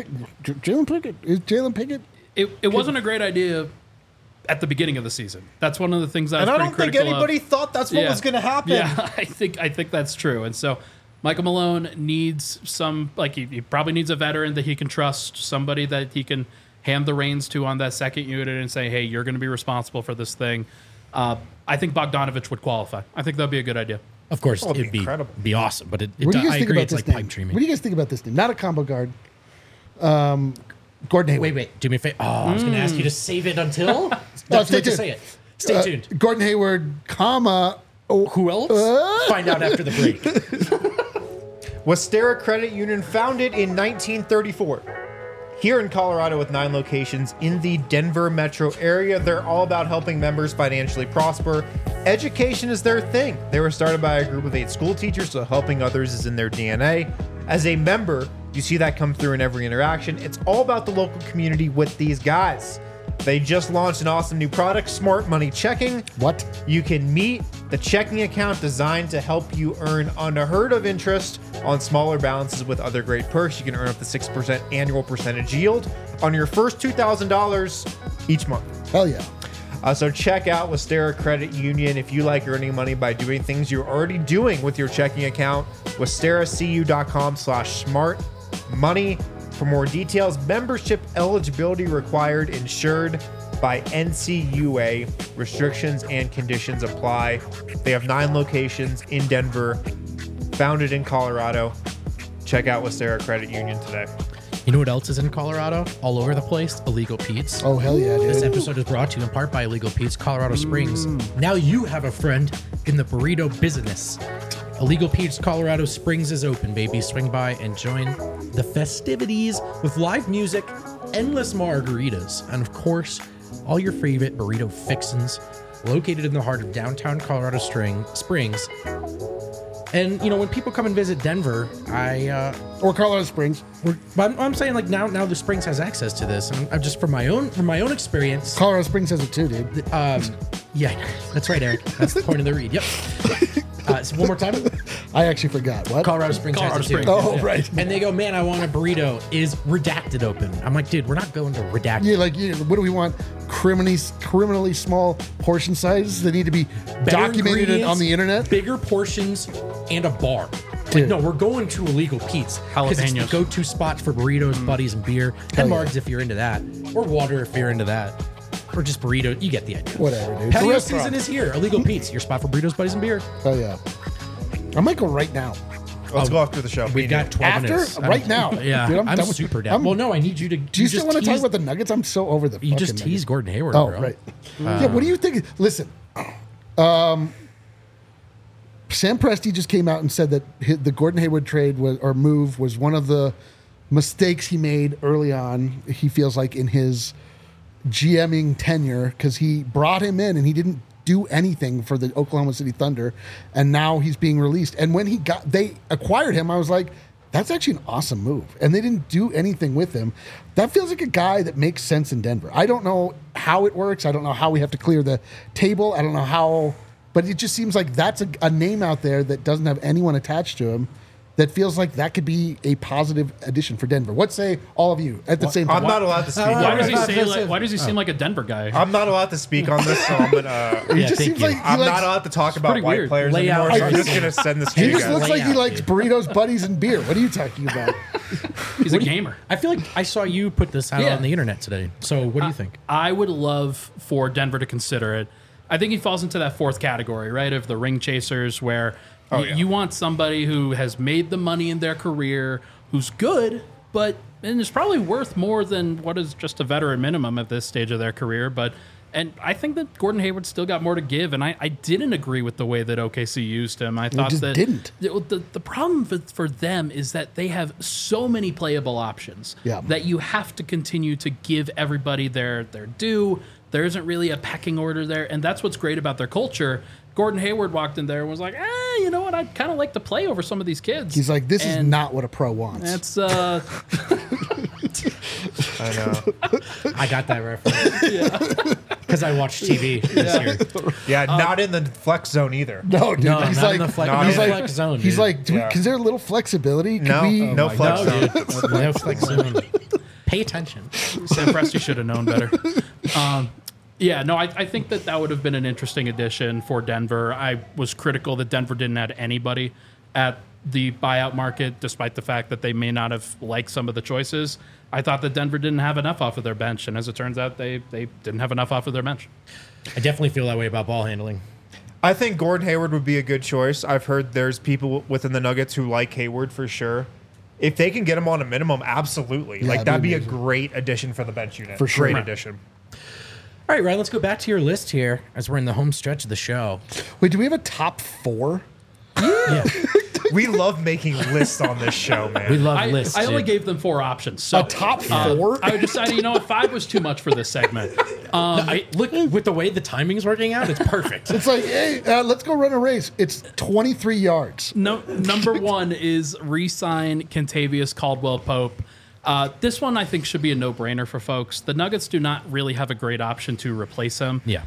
Pickett? It wasn't a great idea at the beginning of the season. That's one of the things I was and I pretty don't think critical of. anybody thought that's what was going to happen. Yeah, I think that's true. And so Michael Malone needs some, like he probably needs a veteran that he can trust, somebody that he can hand the reins to on that second unit and say, hey, you're going to be responsible for this thing. I think Bogdanovich would qualify. I think that'd be a good idea. Of course, it'd be it'd be incredible. be awesome, but What do you guys I think agree about it's this like name? pipe dreaming. What do you guys think about this name? Not a combo guard. Gordon Hayward. Wait, do me a favor. Oh, I was going to ask you to save it until. No, Wait to say it. Stay tuned. Gordon Hayward, comma. Who else? Find out after the break. Westera Credit Union, founded in 1934. Here in Colorado with 9 locations in the Denver metro area, they're all about helping members financially prosper. Education is their thing. They were started by a group of 8 school teachers, so helping others is in their DNA. As a member, you see that come through in every interaction. It's all about the local community with these guys. They just launched an awesome new product, Smart Money Checking. What? You can meet the checking account designed to help you earn unheard of interest on smaller balances with other great perks. You can earn up to 6% annual percentage yield on your first $2,000 each month. Hell yeah. So check out Westera Credit Union if you like earning money by doing things you're already doing with your checking account. WesteraCU.com/smart money. For more details, membership eligibility required, insured by NCUA. Restrictions and conditions apply. They have 9 locations in Denver, founded in Colorado. Check out Westera Credit Union today. You know what else is in Colorado? All over the place? Illegal Pete's. Oh, hell yeah, This dude. episode is brought to you in part by Illegal Pete's Colorado Springs. Now you have a friend in the burrito business. Illegal Pete's Colorado Springs is open, baby. Swing by and join the festivities with live music, endless margaritas, and of course, all your favorite burrito fixins. Located in the heart of downtown Colorado Springs. And you know, when people come and visit Denver, Or Colorado Springs. I'm saying like now the Springs has access to this, and I'm just from my own experience. Colorado Springs has it too, dude. Yeah, that's right, Eric. That's the point of the read. Yep. So one more time. I actually forgot. What? Colorado Springs. Colorado has it too. Springs. Oh, right. And they go, man, I want a burrito. Is redacted open? I'm like, dude, we're not going to redacted. Yeah, like, what do we want? Criminally small portion sizes that need to be Better documented ingredients, on the internet? Bigger portions, and a bar. Like, Dude. no, we're going to Illegal Pete's because it's the Jalapenos. go-to spot for burritos, buddies, and beer, Hell and yeah. margs if you're into that, or water if you're into that, or just burrito. You get the idea. Whatever, dude. Patio The restaurant. season is here. Illegal Pete's, your spot for burritos, buddies, and beer. Oh, yeah. I might go right now. Let's go after the show. We've got 12 After? minutes. Right now. Yeah, Dude, I'm done with- super down. Well, no, I need you to. Do you still want to talk about the Nuggets? I'm so over the You just fucking teased Nuggets. Gordon Hayward, Oh, bro. right. Yeah, what do you think? Listen, Sam Presti just came out and said that the Gordon Hayward trade move was one of the mistakes he made early on. He feels like in his GMing tenure because he brought him in and he didn't do anything for the Oklahoma City Thunder, and now he's being released. And when they acquired him, I was like, that's actually an awesome move. And they didn't do anything with him. That feels like a guy that makes sense in Denver. I don't know how it works. I don't know how we have to clear the table. I don't know how, but it just seems like that's a name out there that doesn't have anyone attached to him that feels like that could be a positive addition for Denver. What say all of you at the same time? I'm not allowed to speak. Why on does he this. say like? Why does he seem like a Denver guy? I'm not allowed to speak on this, so I'm gonna. He Yeah, just thank seems you. like he I'm likes, not allowed to talk about pretty white weird. players Lay anymore, out. so I'm just gonna send this to he you just guys. looks like he Layout, likes burritos, buddies, and beer. What are you talking about? He's a gamer. I feel like I saw you put this out Yeah. on the internet today. So what do you think? I would love for Denver to consider it. I think he falls into that fourth category, right, of the ring chasers, where you want somebody who has made the money in their career, who's good, and is probably worth more than what is just a veteran minimum at this stage of their career. And I think that Gordon Hayward still got more to give, and I didn't agree with the way that OKC used him. I thought just that didn't. The problem for them is that they have so many playable options that you have to continue to give everybody their due. There isn't really a pecking order there, and that's what's great about their culture. Gordon Hayward walked in there and was like, you know what? I'd kind of like to play over some of these kids. He's like, this is not what a pro wants. That's I know. I got that reference. Because I watched TV this year. Yeah, not in the flex zone either. No, dude. No, he's not like, in the flex, not no in the flex zone. he's dude. like, Yeah. is there a little flexibility? Could No, we? no flex no, zone. dude. No flex zone. Pay attention. Sam Presti should have known better. I think that would have been an interesting addition for Denver. I was critical that Denver didn't add anybody at the buyout market, despite the fact that they may not have liked some of the choices. I thought that Denver didn't have enough off of their bench, and as it turns out, they didn't have enough off of their bench. I definitely feel that way about ball handling. I think Gordon Hayward would be a good choice. I've heard there's people within the Nuggets who like Hayward for sure. If they can get him on a minimum, absolutely. Yeah, Like, that'd be a amazing. great addition for the bench unit. For sure. Great Right. addition. All right, Ryan, let's go back to your list here as we're in the home stretch of the show. Wait, do we have a top 4? Yeah. We love making lists on this show, man. We love lists. I only dude. gave them 4 options. So A top 4? I decided, you know what, 5 was too much for this segment. Look, with the way the timing's working out, it's perfect. It's like, hey, let's go run a race. It's 23 yards. No, number 1 is re-sign Kentavious Caldwell-Pope. This one I think should be a no-brainer for folks. The Nuggets do not really have a great option to replace him. Yeah.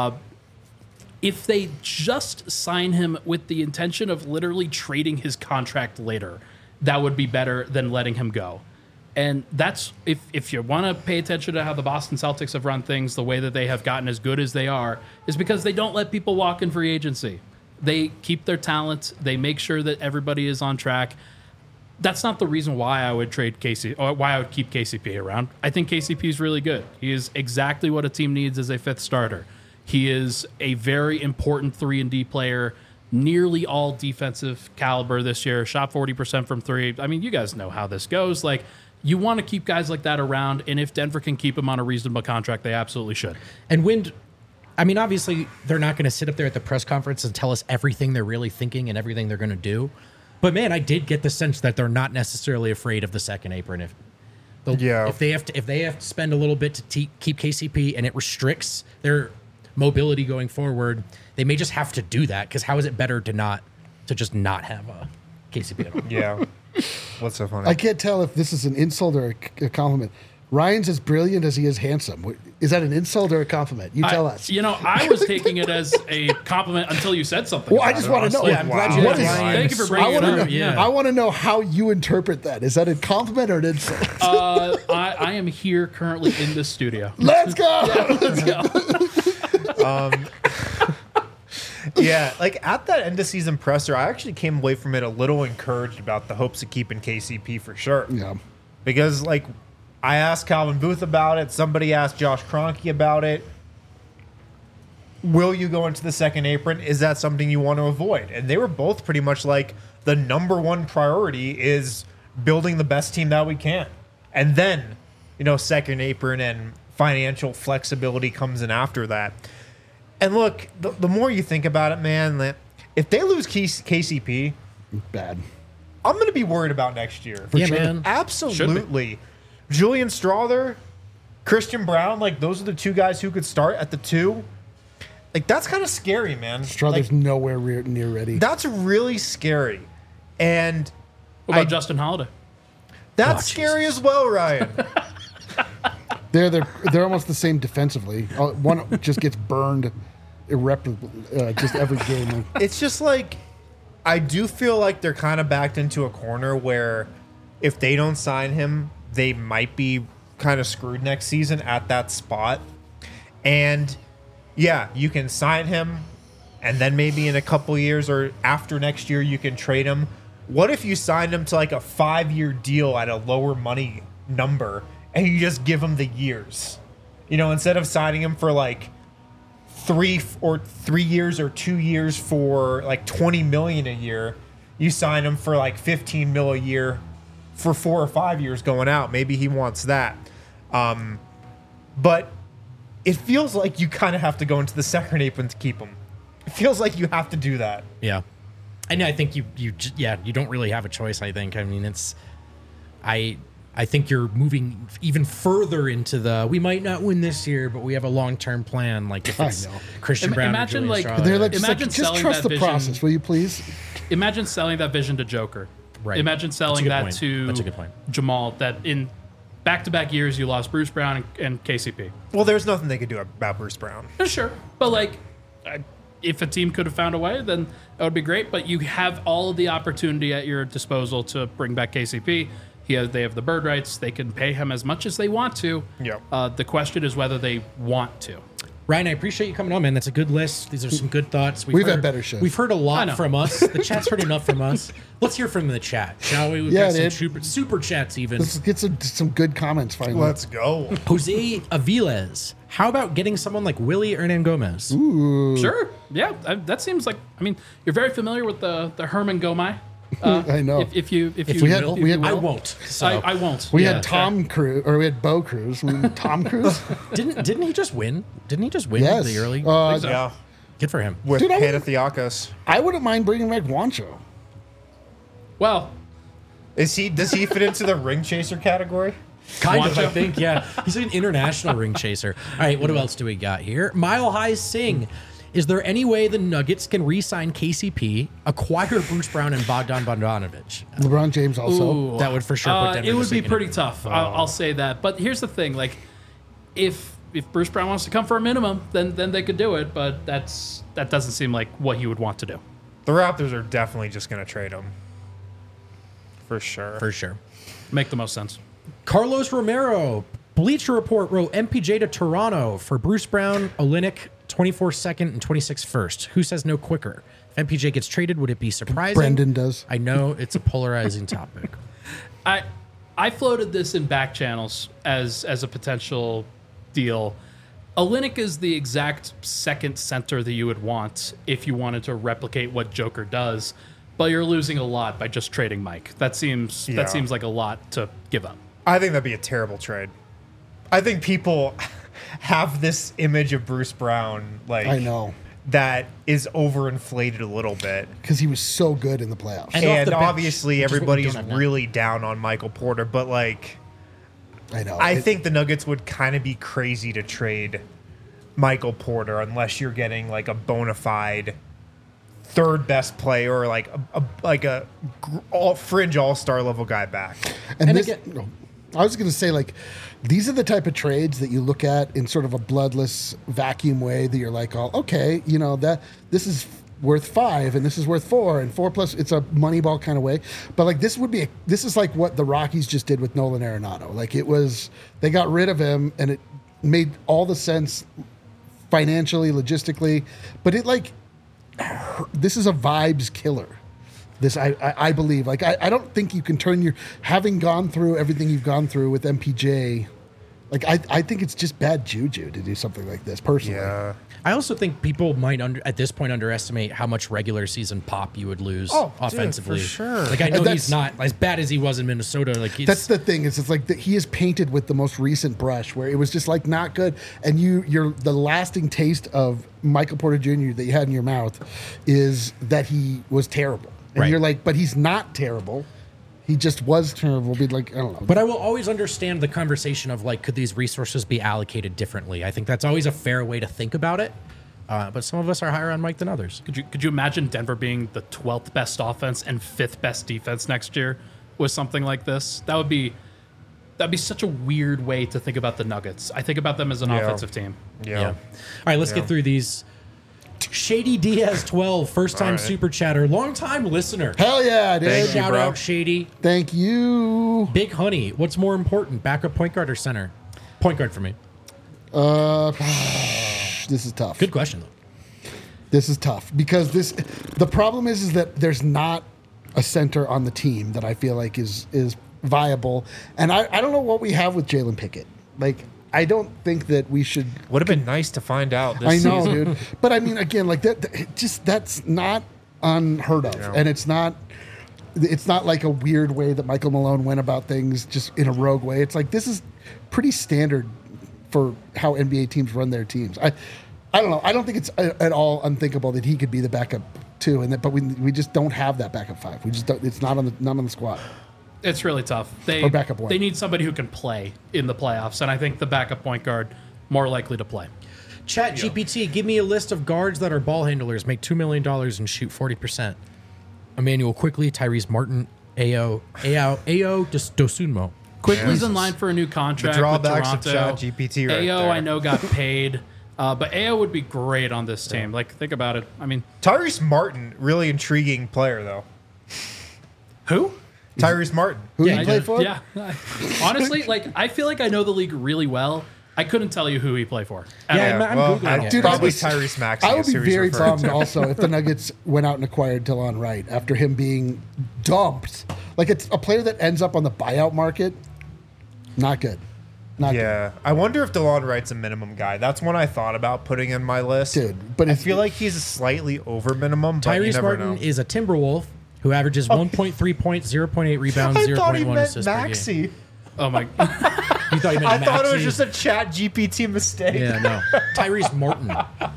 If they just sign him with the intention of literally trading his contract later, that would be better than letting him go. And that's, if you want to pay attention to how the Boston Celtics have run things, the way that they have gotten as good as they are, is because they don't let people walk in free agency. They keep their talent. They make sure that everybody is on track. That's not the reason why I would trade KCP, or why I would keep KCP around. I think KCP is really good. He is exactly what a team needs as a 5th starter. He is a very important 3-and-D player, nearly all defensive caliber this year, shot 40% from 3. I mean, you guys know how this goes. Like, you want to keep guys like that around, and if Denver can keep him on a reasonable contract, they absolutely should. And obviously, they're not going to sit up there at the press conference and tell us everything they're really thinking and everything they're going to do. But man, I did get the sense that they're not necessarily afraid of the second apron. If they have to spend a little bit to keep KCP and it restricts their mobility going forward, they may just have to do that, because how is it better to just not have a KCP at all? Yeah. What's so funny? I can't tell if this is an insult or a compliment. Ryan's as brilliant as he is handsome. Is that an insult or a compliment? You tell us. You know, I was taking it as a compliment until you said something. Well, I about just it, want to know. honestly. Yeah, I'm glad you What had is- Ryan. Thank you for I bringing want it to up. know. Yeah. I want to know how you interpret that. Is that a compliment or an insult? I am here currently in the studio. Let's go. Let's go. Yeah, like at that end of season presser, I actually came away from it a little encouraged about the hopes of keeping KCP for sure. Yeah. Because, like, I asked Calvin Booth about it. Somebody asked Josh Kroenke about it. Will you go into the second apron? Is that something you want to avoid? And they were both pretty much like, the number one priority is building the best team that we can. And then, second apron and financial flexibility comes in after that. And look, the more you think about it, man, if they lose KCP, Bad. I'm going to be worried about next year. Yeah, man. Absolutely. Julian Strawther, Christian Brown, like those are the 2 guys who could start at the 2. Like that's kind of scary, man. Strother's Like, nowhere near ready. that's really scary. And What about Justin Holiday? that's scary as well, Ryan. They're almost the same defensively. One just gets burned irreparably just every game. It's just like I do feel like they're kind of backed into a corner where if they don't sign him, they might be kind of screwed next season at that spot. And yeah, you can sign him and then maybe in a couple years or after next year you can trade him. What if you signed him to like a 5-year deal at a lower money number and you just give him the years? You know, instead of signing him for like 3 years or 2 years for like $20 million a year, you sign him for like $15 million a year for 4 or 5 years going out. Maybe he wants that. But it feels like you kind of have to go into the second apron to keep him. It feels like you have to do that. Yeah. And I think you don't really have a choice, I think. I mean, I think you're moving even further into the we might not win this year, but we have a long-term plan. Like if it's Christian Brown, imagine or Julian like- Strauss. They're like, Imagine just selling trust that the vision. process, will you please? Imagine selling that vision to Joker. Right. Imagine selling good that point. to That's a good point. Jamal, that in back-to-back years you lost Bruce Brown and KCP. Well, there's nothing they could do about Bruce Brown. Yeah, sure. But like, if a team could have found a way, then that would be great. But you have all of the opportunity at your disposal to bring back KCP. They have the bird rights. They can pay him as much as they want to. Yeah. The question is whether they want to. Ryan, I appreciate you coming on, man. That's a good list. These are some good thoughts. We've had better shows. We've heard a I lot know. from us. The chat's heard enough from us. Let's hear from the chat, shall we? We've Yeah, got some dude. super chats even. Let's get some good comments finally. Let's go. Jose Aviles. How about getting someone like Willie Hernan Gomez? Sure. Yeah. That seems like. I mean, you're very familiar with the Herman Gomez. I know. If you we had- will, we had- I won't. So I won't. We Yeah, had Tom Cruise, or we had Bo Cruz. Tom Cruise? didn't he just win? Didn't he just win Yes. the early? Uh, so. Yeah. Good for him. With Dude, I would- Panathiakos. I wouldn't mind bringing back Wancho. Well, Does he fit into the ring chaser category? Kind of, I Wancho? think. Yeah, he's an international ring chaser. All right, what else do we got here? Mile High Sing. Is there any way the Nuggets can re-sign KCP, acquire Bruce Brown and Bogdan Bogdanovic? LeBron James also. ooh. That would for sure put Denver it to would be sleep in pretty it. tough. I'll say that. But here's the thing: like, if Bruce Brown wants to come for a minimum, then they could do it. But that doesn't seem like what he would want to do. The Raptors are definitely just going to trade him. For sure. For sure. Make the most sense. Carlos Romero, Bleacher Report wrote MPJ to Toronto for Bruce Brown, Olynyk, 24 second and 26 first. Who says no quicker? If MPJ gets traded, would it be surprising? Brendan does. I know it's a polarizing topic. I floated this in back channels as a potential deal. Olynyk is the exact second center that you would want if you wanted to replicate what Joker does, but you're losing a lot by just trading Mike. That seems like a lot to give up. I think that'd be a terrible trade. I think people have this image of Bruce Brown, like I know. that is overinflated a little bit. Because he was so good in the playoffs. And off And the bench, obviously which is what we everybody's don't have now. really down on Michael Porter, but like I know. I think the Nuggets would kind of be crazy to trade Michael Porter unless you're getting like a bona fide third best player or like a fringe all-star level guy back. And And this, again- no, I was going to say, like, these are the type of trades that you look at in sort of a bloodless vacuum way that you're like, oh, okay, you know, that this is worth 5 and this is worth 4 and 4 plus, it's a money ball kind of way. But like, this is like what the Rockies just did with Nolan Arenado. Like, it was, they got rid of him and it made all the sense financially, logistically, but it like, this is a vibes killer. This I believe. Like I don't think you can turn having gone through everything you've gone through with MPJ. Like I think it's just bad juju to do something like this personally. Yeah. I also think people might at this point underestimate how much regular season pop you would lose Oh, dude, offensively. for sure. Like I know And he's not as bad as he was in Minnesota. Like That's the thing. It's like he is painted with the most recent brush, where it was just like not good, and you're the lasting taste of Michael Porter Jr. that you had in your mouth is that he was terrible, and Right. you're like, but he's not terrible. He just was terrible. Be like, I don't know. But I will always understand the conversation of like, could these resources be allocated differently? I think that's always a fair way to think about it. But some of us are higher on Mike than others. Could you imagine Denver being the 12th best offense and 5th best defense next year with something like this? That'd be such a weird way to think about the Nuggets. I think about them as an Yeah. offensive team. Yeah. All right, let's get through these. Shady Diaz 12, first time All right. super chatter, long time listener. Hell yeah, dude. Thank you, Shout bro. out Shady. Thank you. Big Honey, what's more important, backup point guard or center? Point guard for me. This is tough. Good question though. This is tough because the problem is that there's not a center on the team that I feel like is viable. And I don't know what we have with Jalen Pickett. Like, I don't think that we should. Would have been nice to find out this I know, season. dude. But I mean, again, like that's not unheard of, and it's not like a weird way that Michael Malone went about things, just in a rogue way. It's like this is pretty standard for how NBA teams run their teams. I don't know. I don't think it's at all unthinkable that he could be the backup too, but we just don't have that backup 5. We just don't. It's not on the squad. It's really tough. Or backup one. They need somebody who can play in the playoffs, and I think the backup point guard more likely to play. Chat GPT, give me a list of guards that are ball handlers, make $2 million and shoot 40%. Emmanuel Quickly, Tyrese Martin, Ao Dosunmo. Quickly's in line for a new contract. The drawbacks with of Toronto. ChatGPT right Ao, there. I know, got paid, but Ao would be great on this team. Like, think about it. I mean, Tyrese Martin, really intriguing player though. who? Tyrese Martin. Who Yeah, do I you play did. for? Yeah. Honestly, like, I feel like I know the league really well. I couldn't tell you who he played for. at Yeah, all. I'm well, Googling it. Dude, probably I would- Tyrese Maxey. I would is be who he's very referring bummed to. also if the Nuggets went out and acquired Delon Wright after him being dumped. Like, it's a player that ends up on the buyout market. Not good. Not good. Yeah, I wonder if DeLon Wright's a minimum guy. That's one I thought about putting in my list. Dude, but I if- feel like he's slightly over minimum. But you Tyrese never Martin know. is a Timberwolf who averages 1.3 points, 0.8 rebounds, I thought he 0.1 meant assists per game. Maxi. Oh, my. You thought he meant I thought it was Maxey? just a Chat GPT mistake. Yeah, no. Tyrese Martin.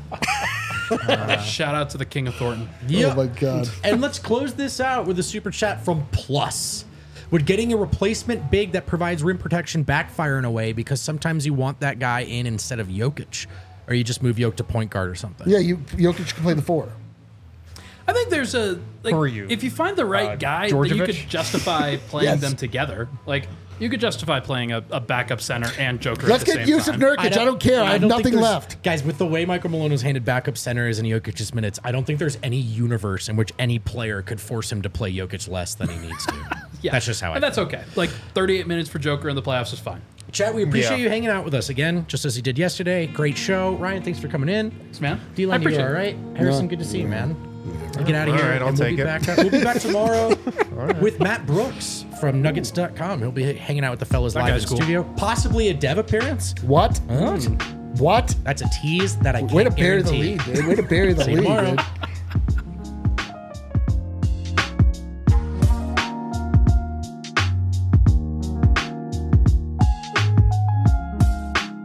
Shout out to the King of Thornton. Yeah. Oh my God. And let's close this out with a super chat from Plus. Would getting a replacement big that provides rim protection backfire in a way because sometimes you want that guy in instead of Jokic? Or you just move Jokic to point guard or something? Yeah, Jokic can play the 4. I think there's a like Who are you? if you find the right guy, then you Djordjevic? could justify playing Yes. them together. Like you could justify playing a backup center and Joker. Let's at the get same Yusuf time. Nurkic. I don't care. I have don't think nothing there's- left. Guys, with the way Michael Malone was handed backup centers and Jokic's minutes, I don't think there's any universe in which any player could force him to play Jokic less than he needs to. Yeah, That's just how I And that's okay. Like 38 minutes for Joker in the playoffs is fine. Chat, we appreciate Yeah. you hanging out with us again, just as you did yesterday. Great show. Ryan, thanks for coming in. Thanks, man. I D-Line, you appreciate all it. right? Harrison, good to see you, man. Get out of All here. right, I'll and we'll take be it. back. We'll be back tomorrow with Matt Brooks from Nuggets.com. He'll be hanging out with the fellas live in guy's the cool. studio. Possibly a dev appearance. What? What? What? That's a tease that I can't Way to bury the guarantee. lead, dude. Way to bury the See you lead, tomorrow. dude.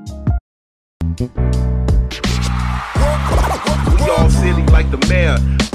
We all silly like the mayor.